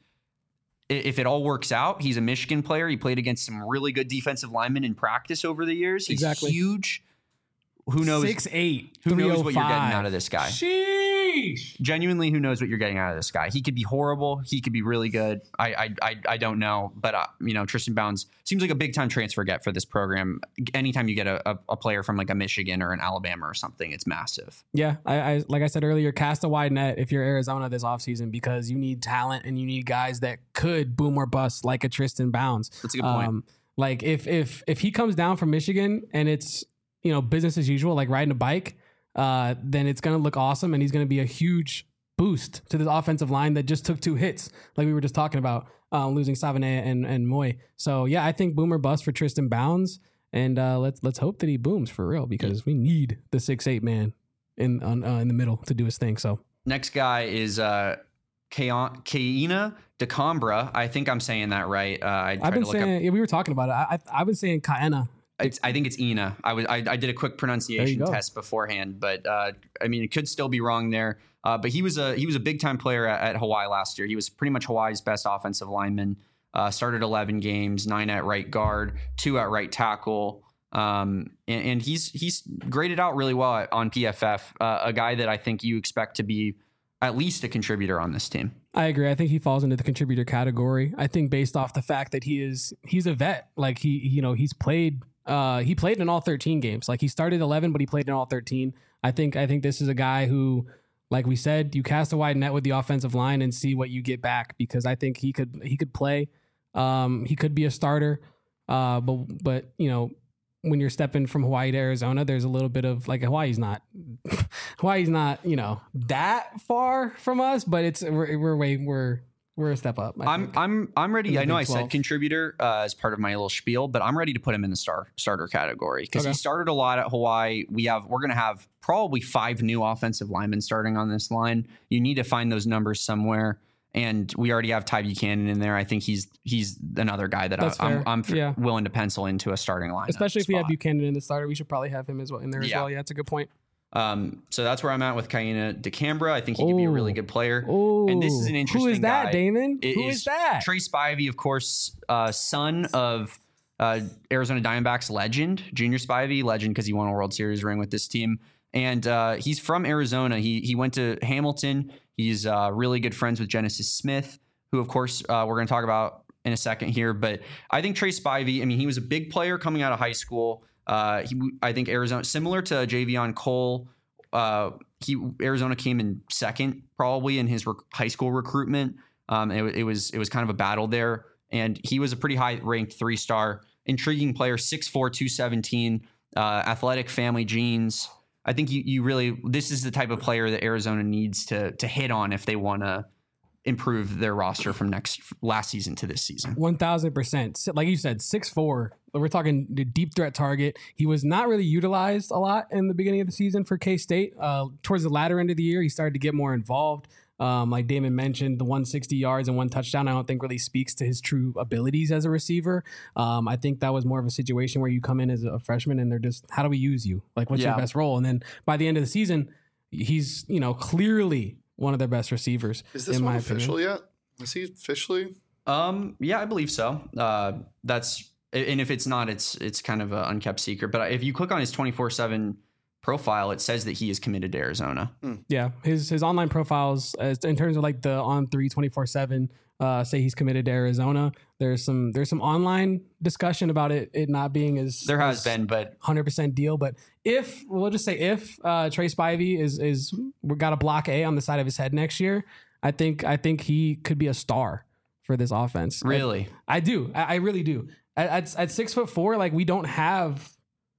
if it all works out, he's a Michigan player. He played against some really good defensive linemen in practice over the years. He's Exactly. huge. Who knows? six eight, Who knows what you're getting out of this guy? Sheesh. Genuinely, who knows what you're getting out of this guy? He could be horrible. He could be really good. I I I, I don't know. But, uh, you know, Tristan Bounds seems like a big-time transfer get for this program. Anytime you get a, a, a player from, like, a Michigan or an Alabama or something, it's massive. Yeah, I, I like I said earlier, cast a wide net if you're Arizona this offseason because you need talent and you need guys that could boom or bust like a Tristan Bounds. That's a good point. Um, like if if if he comes down from Michigan and it's, you know, business as usual, like riding a bike, uh, then it's going to look awesome. And he's going to be a huge boost to this offensive line that just took two hits, like we were just talking about, uh, losing Savane and, and Moy. So, yeah, I think boomer bust for Tristan Bounds. And uh, let's let's hope that he booms for real because we need the six eight man in on, uh, in the middle to do his thing. So Next guy is uh, Kaina DeCombra. I think I'm saying that right. Uh, I tried I've been to look saying, up. yeah, we were talking about it. I, I, I've been saying Kaena. It's, I think it's Ina. I was I, I did a quick pronunciation go. test beforehand, but uh, I mean it could still be wrong there. Uh, but he was a he was a big time player at, at Hawaii last year. He was pretty much Hawaii's best offensive lineman. Uh, started eleven games, nine at right guard, two at right tackle, um, and, and he's he's graded out really well at, on P F F. Uh, a guy that I think you expect to be at least a contributor on this team. I agree. I think he falls into the contributor category. I think based off the fact that he is he's a vet. Like he you know he's played. Uh, he played in all thirteen games. Like he started eleven, but he played in all thirteen. I think I think this is a guy who, like we said, you cast a wide net with the offensive line and see what you get back because I think he could he could play. Um, he could be a starter. Uh, but but you know when you're stepping from Hawaii to Arizona, there's a little bit of like Hawaii's not Hawaii's not you know that far from us, but it's we're, we're way we're. We're a step up. I I'm think. I'm I'm ready. I know I Big said twelve. contributor uh, as part of my little spiel, but I'm ready to put him in the star starter category because Okay. he started a lot at Hawaii. We have we're gonna have probably five new offensive linemen starting on this line. You need to find those numbers somewhere, and we already have Ty Buchanan in there. I think he's he's another guy that I, That's I'm, fair. I'm f- Yeah. willing to pencil into a starting lineup. Especially if we have spot. Buchanan in the starter, we should probably have him as well in there as Yeah. well. Yeah, that's a good point. Um, so that's where I'm at with Kaina DeCambra. I think he could be a really Ooh. good player. Oh, And this is an interesting Who is that, guy. Damon? It Who is, that? Trey Spivey, of course, uh, son of uh, Arizona Diamondbacks legend, Junior Spivey, legend because he won a World Series ring with this team. And uh, he's from Arizona. He he went to Hamilton. He's uh, really good friends with Genesis Smith, who, of course, uh, we're going to talk about in a second here. But I think Trey Spivey, I mean, he was a big player coming out of high school. Uh, he, I think Arizona, similar to Javion Cole, uh, he Arizona came in second probably in his rec- high school recruitment. Um, it, it was it was kind of a battle there, and he was a pretty high ranked three star, intriguing player, six four, two seventeen, uh, athletic family genes. I think you you really this is the type of player that Arizona needs to to hit on if they want to improve their roster from next last season to this season. One thousand percent. Like you said, six four. We're talking the deep threat target. He was not really utilized a lot in the beginning of the season for K-State. Uh, towards the latter end of the year, he started to get more involved. Um, like Damon mentioned, the one hundred sixty yards and one touchdown, I don't think really speaks to his true abilities as a receiver. Um, I think that was more of a situation where you come in as a freshman and they're just, how do we use you? Like, what's Yeah. your best role? And then by the end of the season, he's, you know, clearly one of their best receivers. Is this in one my official opinion. yet? Is he officially? Um, yeah, I believe so. Uh, that's and if it's not, it's it's kind of an unkept secret. But if you click on his twenty-four seven profile, it says that he is committed to Arizona. Yeah, his his online profiles, as in terms of like the on three twenty-four seven, uh, say he's committed to Arizona. There's some there's some online discussion about it it not being as There has as been, but one hundred percent deal. But if we'll just say if uh, Trey Spivey is is we got a block A on the side of his head next year, I think I think he could be a star for this offense. really, I, I do. I, I really do. At, at at six foot four, like we don't have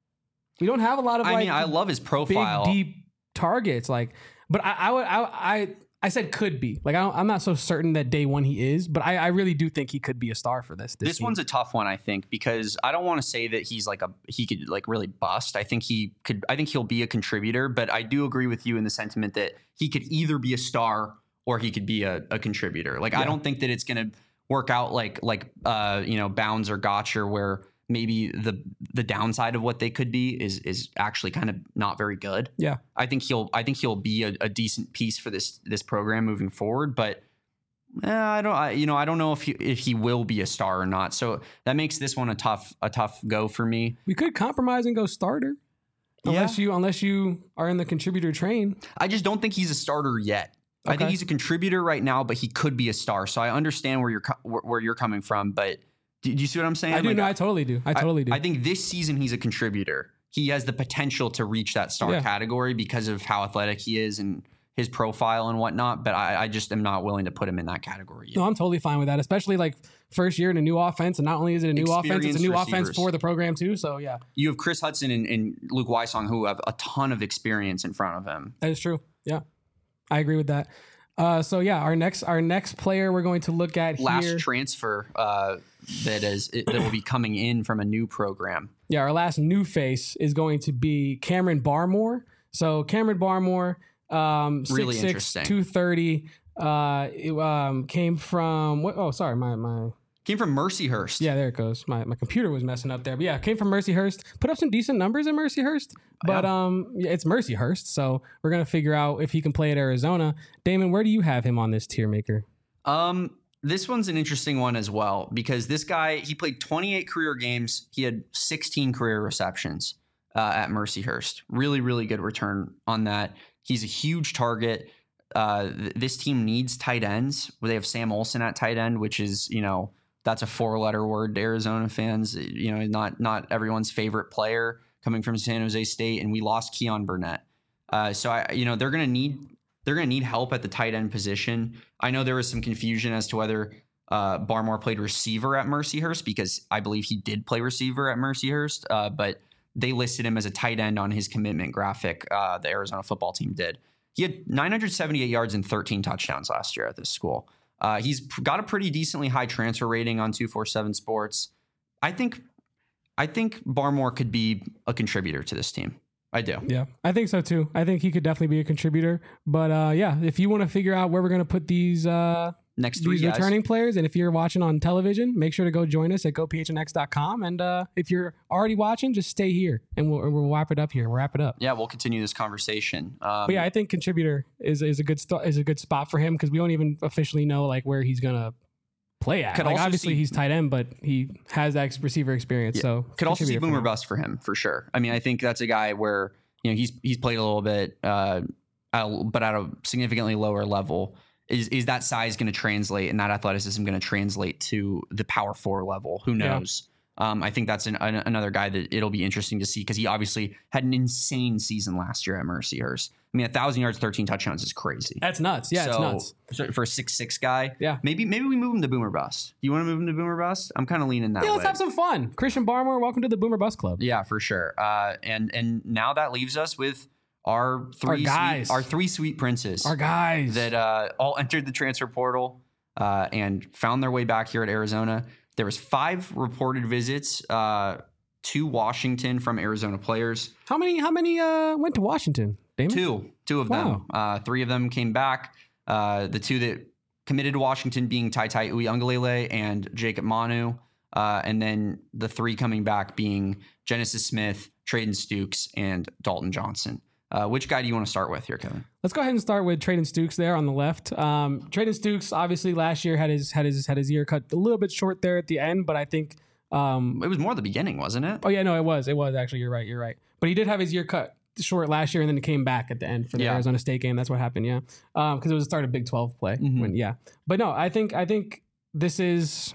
we don't have a lot of I like mean, I love his big profile. deep targets. Like, but I I would I I, I said could be. Like I don't, I'm not so certain that day one he is, but I, I really do think he could be a star for this. This, This team. one's a tough one, I think, because I don't want to say that he's like a he could like really bust. I think he could. I think he'll be a contributor, but I do agree with you in the sentiment that he could either be a star or he could be a, a contributor. Like I Yeah. don't think that it's going to work out like like uh you know Bounds or Gotcher, where maybe the the downside of what they could be is is actually kind of not very good. Yeah. I think he'll I think he'll be a, a decent piece for this this program moving forward, but eh, I don't I, you know I don't know if he if he will be a star or not. So that makes this one a tough a tough go for me. We could compromise and go starter, unless you unless you are in the contributor train. I just don't think he's a starter yet. I Okay. think he's a contributor right now, but he could be a star. So I understand where you're co- where, where you're coming from, but do, do you see what I'm saying? I do. Like, No, I totally do. I totally do. I think this season he's a contributor. He has the potential to reach that star Yeah. category because of how athletic he is and his profile and whatnot. But I, I just am not willing to put him in that category yet. No, I'm totally fine with that, especially like first year in a new offense. And not only is it a new offense, it's a Experienced new offense receivers. for the program too. So yeah, You have Chris Hudson and, and Luke Weissong who have a ton of experience in front of him. that is true. Yeah, I agree with that. Uh, so yeah, our next our next player we're going to look at Last here. transfer uh, that is that will be coming in from a new program. Yeah, our last new face is going to be Cameron Barmore. So Cameron Barmore, um, Really six six, interesting. two thirty, uh, it, um, came from what? Oh, sorry, my my. Came from Mercyhurst. Yeah, there it goes. My my computer was messing up there. But yeah, came from Mercyhurst. Put up some decent numbers in Mercyhurst. But Yeah. um yeah, it's Mercyhurst, so we're gonna figure out if he can play at Arizona. Damon, where do you have him on this tier maker? Um, this one's an interesting one as well because this guy he played twenty-eight career games. He had sixteen career receptions uh, at Mercyhurst. Really, really good return on that. He's a huge target. Uh, th- this team needs tight ends. They have Sam Olson at tight end, which is you know that's a four-letter word to Arizona fans. You know, not not everyone's favorite player coming from San Jose State, and we lost Keon Burnett. Uh, so I, you know, they're gonna need. They're going to need help at the tight end position. I know there was some confusion as to whether uh, Barmore played receiver at Mercyhurst because I believe he did play receiver at Mercyhurst, uh, but they listed him as a tight end on his commitment graphic. Uh, the Arizona football team did. He had nine hundred seventy-eight yards and thirteen touchdowns last year at this school. Uh, he's got a pretty decently high transfer rating on two forty-seven Sports. I think, I think Barmore could be a contributor to this team. I do. Yeah, I think so too. I think he could definitely be a contributor. But uh, yeah, if you want to figure out where we're going to put these uh, next three these guys. returning players. And if you're watching on television, make sure to go join us at go p h n x dot com. And uh, if you're already watching, just stay here and we'll, we'll wrap it up here. We'll wrap it up. Yeah, we'll continue this conversation. Um, But yeah, I think contributor is is a good st- is a good spot for him because we don't even officially know like where he's gonna play at. Could Like also obviously see- he's tight end, but he has that ex- receiver experience. Yeah. So Could also see contributor for boomer him. bust for him for sure. I mean, I think that's a guy where you know he's he's played a little bit, uh, at a, but at a significantly lower level. Is is that size going to translate and that athleticism going to translate to the power four level? Who Yeah. knows? Um, I think that's an, an, another guy that it'll be interesting to see because he obviously had an insane season last year at Mercyhurst. I mean, a thousand yards, thirteen touchdowns is crazy. That's nuts. Yeah, so, it's nuts. so for a six six guy, Yeah. maybe maybe we move him to boomer bust. Do you want to move him to boomer bust? I'm kind of leaning that Yeah, way. let's have some fun. Christian Barmore, welcome to the Boomer Bus Club. Yeah, for sure. Uh, and and now that leaves us with our three guys. sweet, our three sweet princes Our guys. that uh, all entered the transfer portal uh, and found their way back here at Arizona. There was five reported visits uh, to Washington from Arizona players. how many how many uh went to Washington? Damon? Two, two of them. Uh, three of them came back. Uh, the two that committed to Washington being Tai Tai Uiagalelei and Jacob Manu. Uh, and then the three coming back being Genesis Smith, Traden Stukes, and Dalton Johnson. Uh, which guy do you want to start with here, Kevin? Let's go ahead and start with Traden Stukes there on the left. Um, Traden Stukes obviously last year had his had his had his year cut a little bit short there at the end, but I think um, It was more the beginning, wasn't it? oh yeah, no, it was it was actually you're right, you're right. But he did have his year cut short last year and then it came back at the end for the Yeah. Arizona State game. That's what happened, yeah. Um, because it was the start of Big twelve play. Mhm. When, yeah. But no, I think I think this is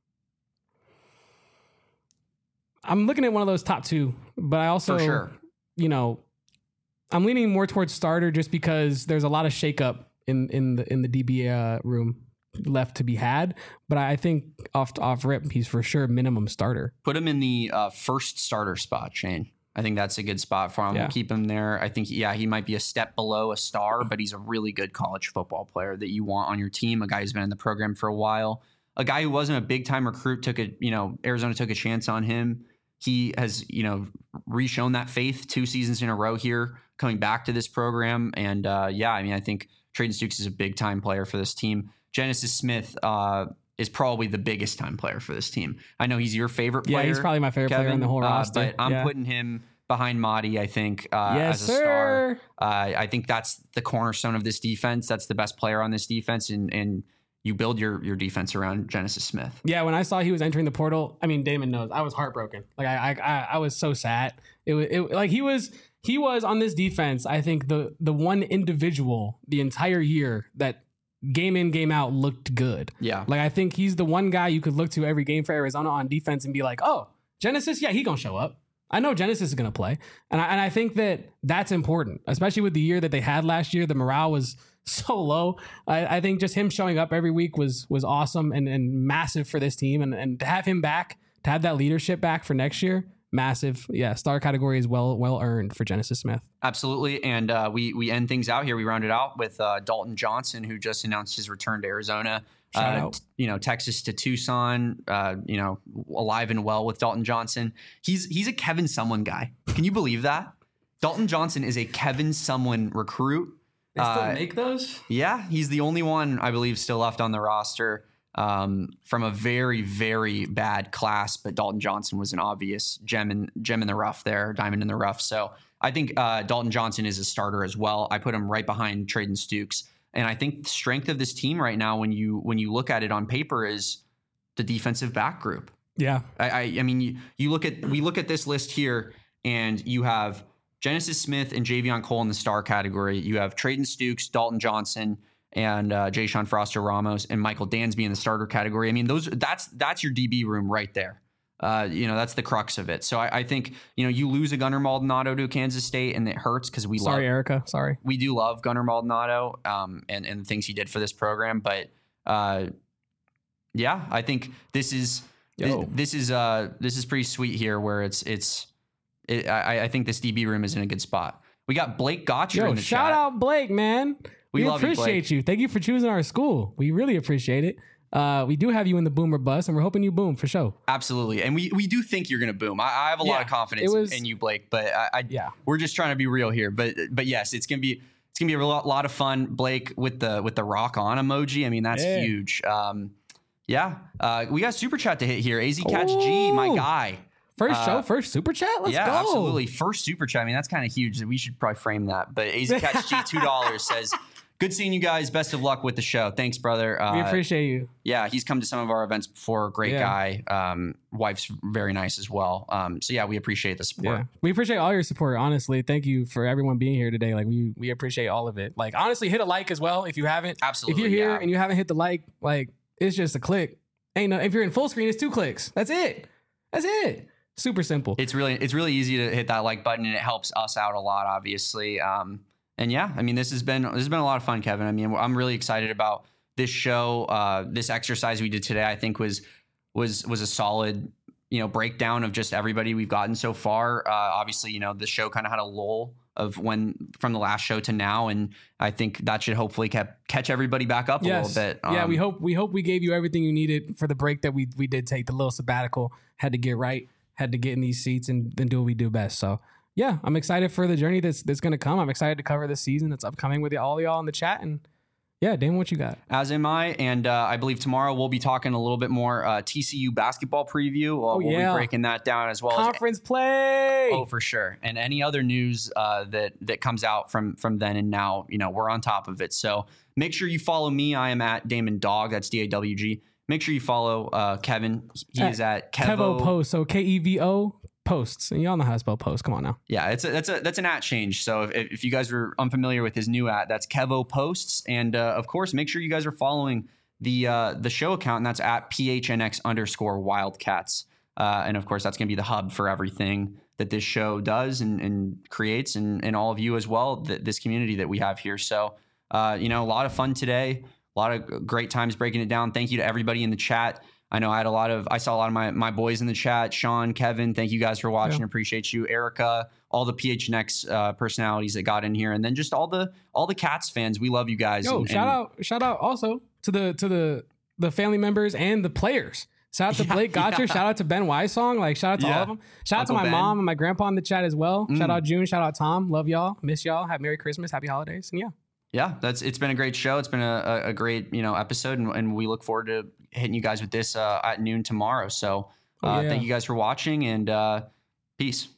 I'm looking at one of those top two, but I also For sure. you know, I'm leaning more towards starter just because there's a lot of shakeup in in the in the D B uh, room left to be had. But I think off off rip, he's for sure minimum starter. Put him in the uh, first starter spot, Shane. I think that's a good spot for him. Yeah. We'll keep him there. I think, yeah, he might be a step below a star, but he's a really good college football player that you want on your team. A guy who's been in the program for a while. A guy who wasn't a big time recruit, took a, you know, Arizona took a chance on him. He has, you know, re-shown that faith two seasons in a row here, coming back to this program. And uh, yeah, I mean, I think Traden Stukes is a big time player for this team. Genesis Smith uh, is probably the biggest time player for this team. I know he's your favorite player. Yeah, he's probably my favorite Kevin, player in the whole uh, roster. but I'm yeah. putting him behind Mahdi, I think, uh, yes, as a star. sir. Uh, I think that's the cornerstone of this defense. That's the best player on this defense, and and you build your your defense around Genesis Smith. Yeah, when I saw he was entering the portal, I mean, Damon knows I was heartbroken. Like I, I, I was so sad. It was it, like he was, he was on this defense. I think the the one individual the entire year that game in game out looked good. Yeah, Like I think he's the one guy you could look to every game for Arizona on defense and be like, oh, Genesis, yeah, he gonna show up. I know Genesis is gonna play, and I and I think that that's important, especially with the year that they had last year. The morale was so low. I, I think just him showing up every week was was awesome and, and massive for this team. And, and to have him back, to have that leadership back for next year, massive. Yeah, star category is well well earned for Genesis Smith. absolutely. And uh, we we end things out here. We round it out with uh, Dalton Johnson, who just announced his return to Arizona. Shout Uh, out. t- you know, Texas to Tucson. Uh, you know, alive and well with Dalton Johnson. He's he's a Kevin Someone guy. Can you believe that? Dalton Johnson is a Kevin Someone recruit. They still Uh, make those? Yeah, he's the only one I believe still left on the roster um, from a very, very bad class. But Dalton Johnson was an obvious gem in gem in the rough there, diamond in the rough. So I think uh, Dalton Johnson is a starter as well. I put him right behind Traden Stukes, and I think the strength of this team right now, when you when you look at it on paper, is the defensive back group. Yeah. I, I, I mean, you, you look at we look at this list here, and you have Genesis Smith and Javion Cole in the star category. You have Traden Stukes, Dalton Johnson, and uh, Jay-Sean Foster Ramos, and Michael Dansby in the starter category. I mean, those that's that's your D B room right there. Uh, you know, that's the crux of it. So I, I think you know you lose a Gunnar Maldonado to Kansas State, and it hurts because we Sorry, love Erica. Sorry. we do love Gunnar Maldonado um, and and the things he did for this program. But uh, yeah, I think this is this, Yo. this is uh this is pretty sweet here, where it's it's. It, I, I think this D B room is in a good spot. We got Blake Gotcher Yo, in the shout chat. out Blake, man. We We, love you, appreciate Blake. you. Thank you for choosing our school. We really appreciate it. Uh, we do have you in the Boomer bus, and we're hoping you boom for sure. Absolutely, and we we do think you're going to boom. I, I have a lot Yeah, of confidence it was- in you, Blake. But I, I Yeah. we're just trying to be real here. But but yes, it's gonna be it's it's gonna be a lot, lot of fun. Blake with the with the rock on emoji. I mean, that's Yeah. huge. Um, yeah, uh, we got super chat to hit here. A Z Catch G, my Ooh. guy. First Uh, show, first super chat. Let's yeah, go. absolutely. First super chat. I mean, that's kind of huge. We should probably frame that. But A Z Catch G, two dollars says, "Good seeing you guys. Best of luck with the show. Thanks, brother." Uh, We appreciate you. yeah, he's come to some of our events before. Great Yeah. guy. Um, wife's very nice as well. Um, so yeah, we appreciate the support. Yeah, we appreciate all your support. Honestly, thank you for everyone being here today. Like we we appreciate all of it. Like honestly, hit a like as well if you haven't. Absolutely. If you're here yeah. and you haven't hit the like, like it's just a click. Ain't no. If you're in full screen, it's two clicks. That's it. That's it. Super simple. It's really it's really easy to hit that like button, and it helps us out a lot, obviously. Um, and yeah, I mean, this has been this has been a lot of fun, Kevin. I mean, I'm really excited about this show. Uh, this exercise we did today, I think was was was a solid, you know, breakdown of just everybody we've gotten so far. Uh, obviously, you know, the show kind of had a lull of when from the last show to now, and I think that should hopefully kept, catch everybody back up yes. a little bit. yeah, Um, we hope we hope we gave you everything you needed for the break that we we did take. The little sabbatical had to get right, had to get in these seats and then do what we do best. So yeah, I'm excited for the journey that's that's gonna come. I'm excited to cover this season that's upcoming with all y'all in the chat. And yeah, Damon, what you got? As am I, and uh, I believe tomorrow we'll be talking a little bit more uh, T C U basketball preview. Uh, Oh, we'll yeah. be breaking that down as well as Conference play. oh, for sure. And any other news uh, that that comes out from from then and now, you know, we're on top of it. So make sure you follow me. I am at Damon Dog. That's D A W G. Make sure you follow uh, Kevin. He At is at Kevo Kevo. Post. So K E V O Posts. And y'all know how to spell post. Come on now. Yeah, it's a, that's a that's an at change. So if, if you guys were unfamiliar with his new at, that's Kevo Posts. And uh, of course, make sure you guys are following the uh, the show account, and that's at P H N X underscore Wildcats. Uh, and of course, that's going to be the hub for everything that this show does and, and creates, and, and all of you as well, th- this community that we have here. So, uh, you know, a lot of fun today, a lot of great times breaking it down. Thank you to everybody in the chat. I know I had a lot of, I saw a lot of my, my boys in the chat. Sean, Kevin, thank you guys for watching. Yeah. Appreciate you. Erica, all the P H N X uh, personalities that got in here. And then just all the, all the Cats fans. We love you guys. Yo, and, shout and, out, shout out also to the to the the family members and the players. Shout out to Yeah, Blake Gotcher. yeah. Shout out to Ben Wysong. Like shout out to Yeah. all of them. Shout Uncle out to my Ben. mom and my grandpa in the chat as well. Shout Mm. out June. Shout out Tom. Love y'all. Miss y'all. Have Merry Christmas. Happy holidays. And yeah. Yeah, that's it's been a great show. It's been a, a, a great, you know, episode, and, and we look forward to hitting you guys with this uh, at noon tomorrow. So uh, Oh, yeah. thank you guys for watching, and uh, peace.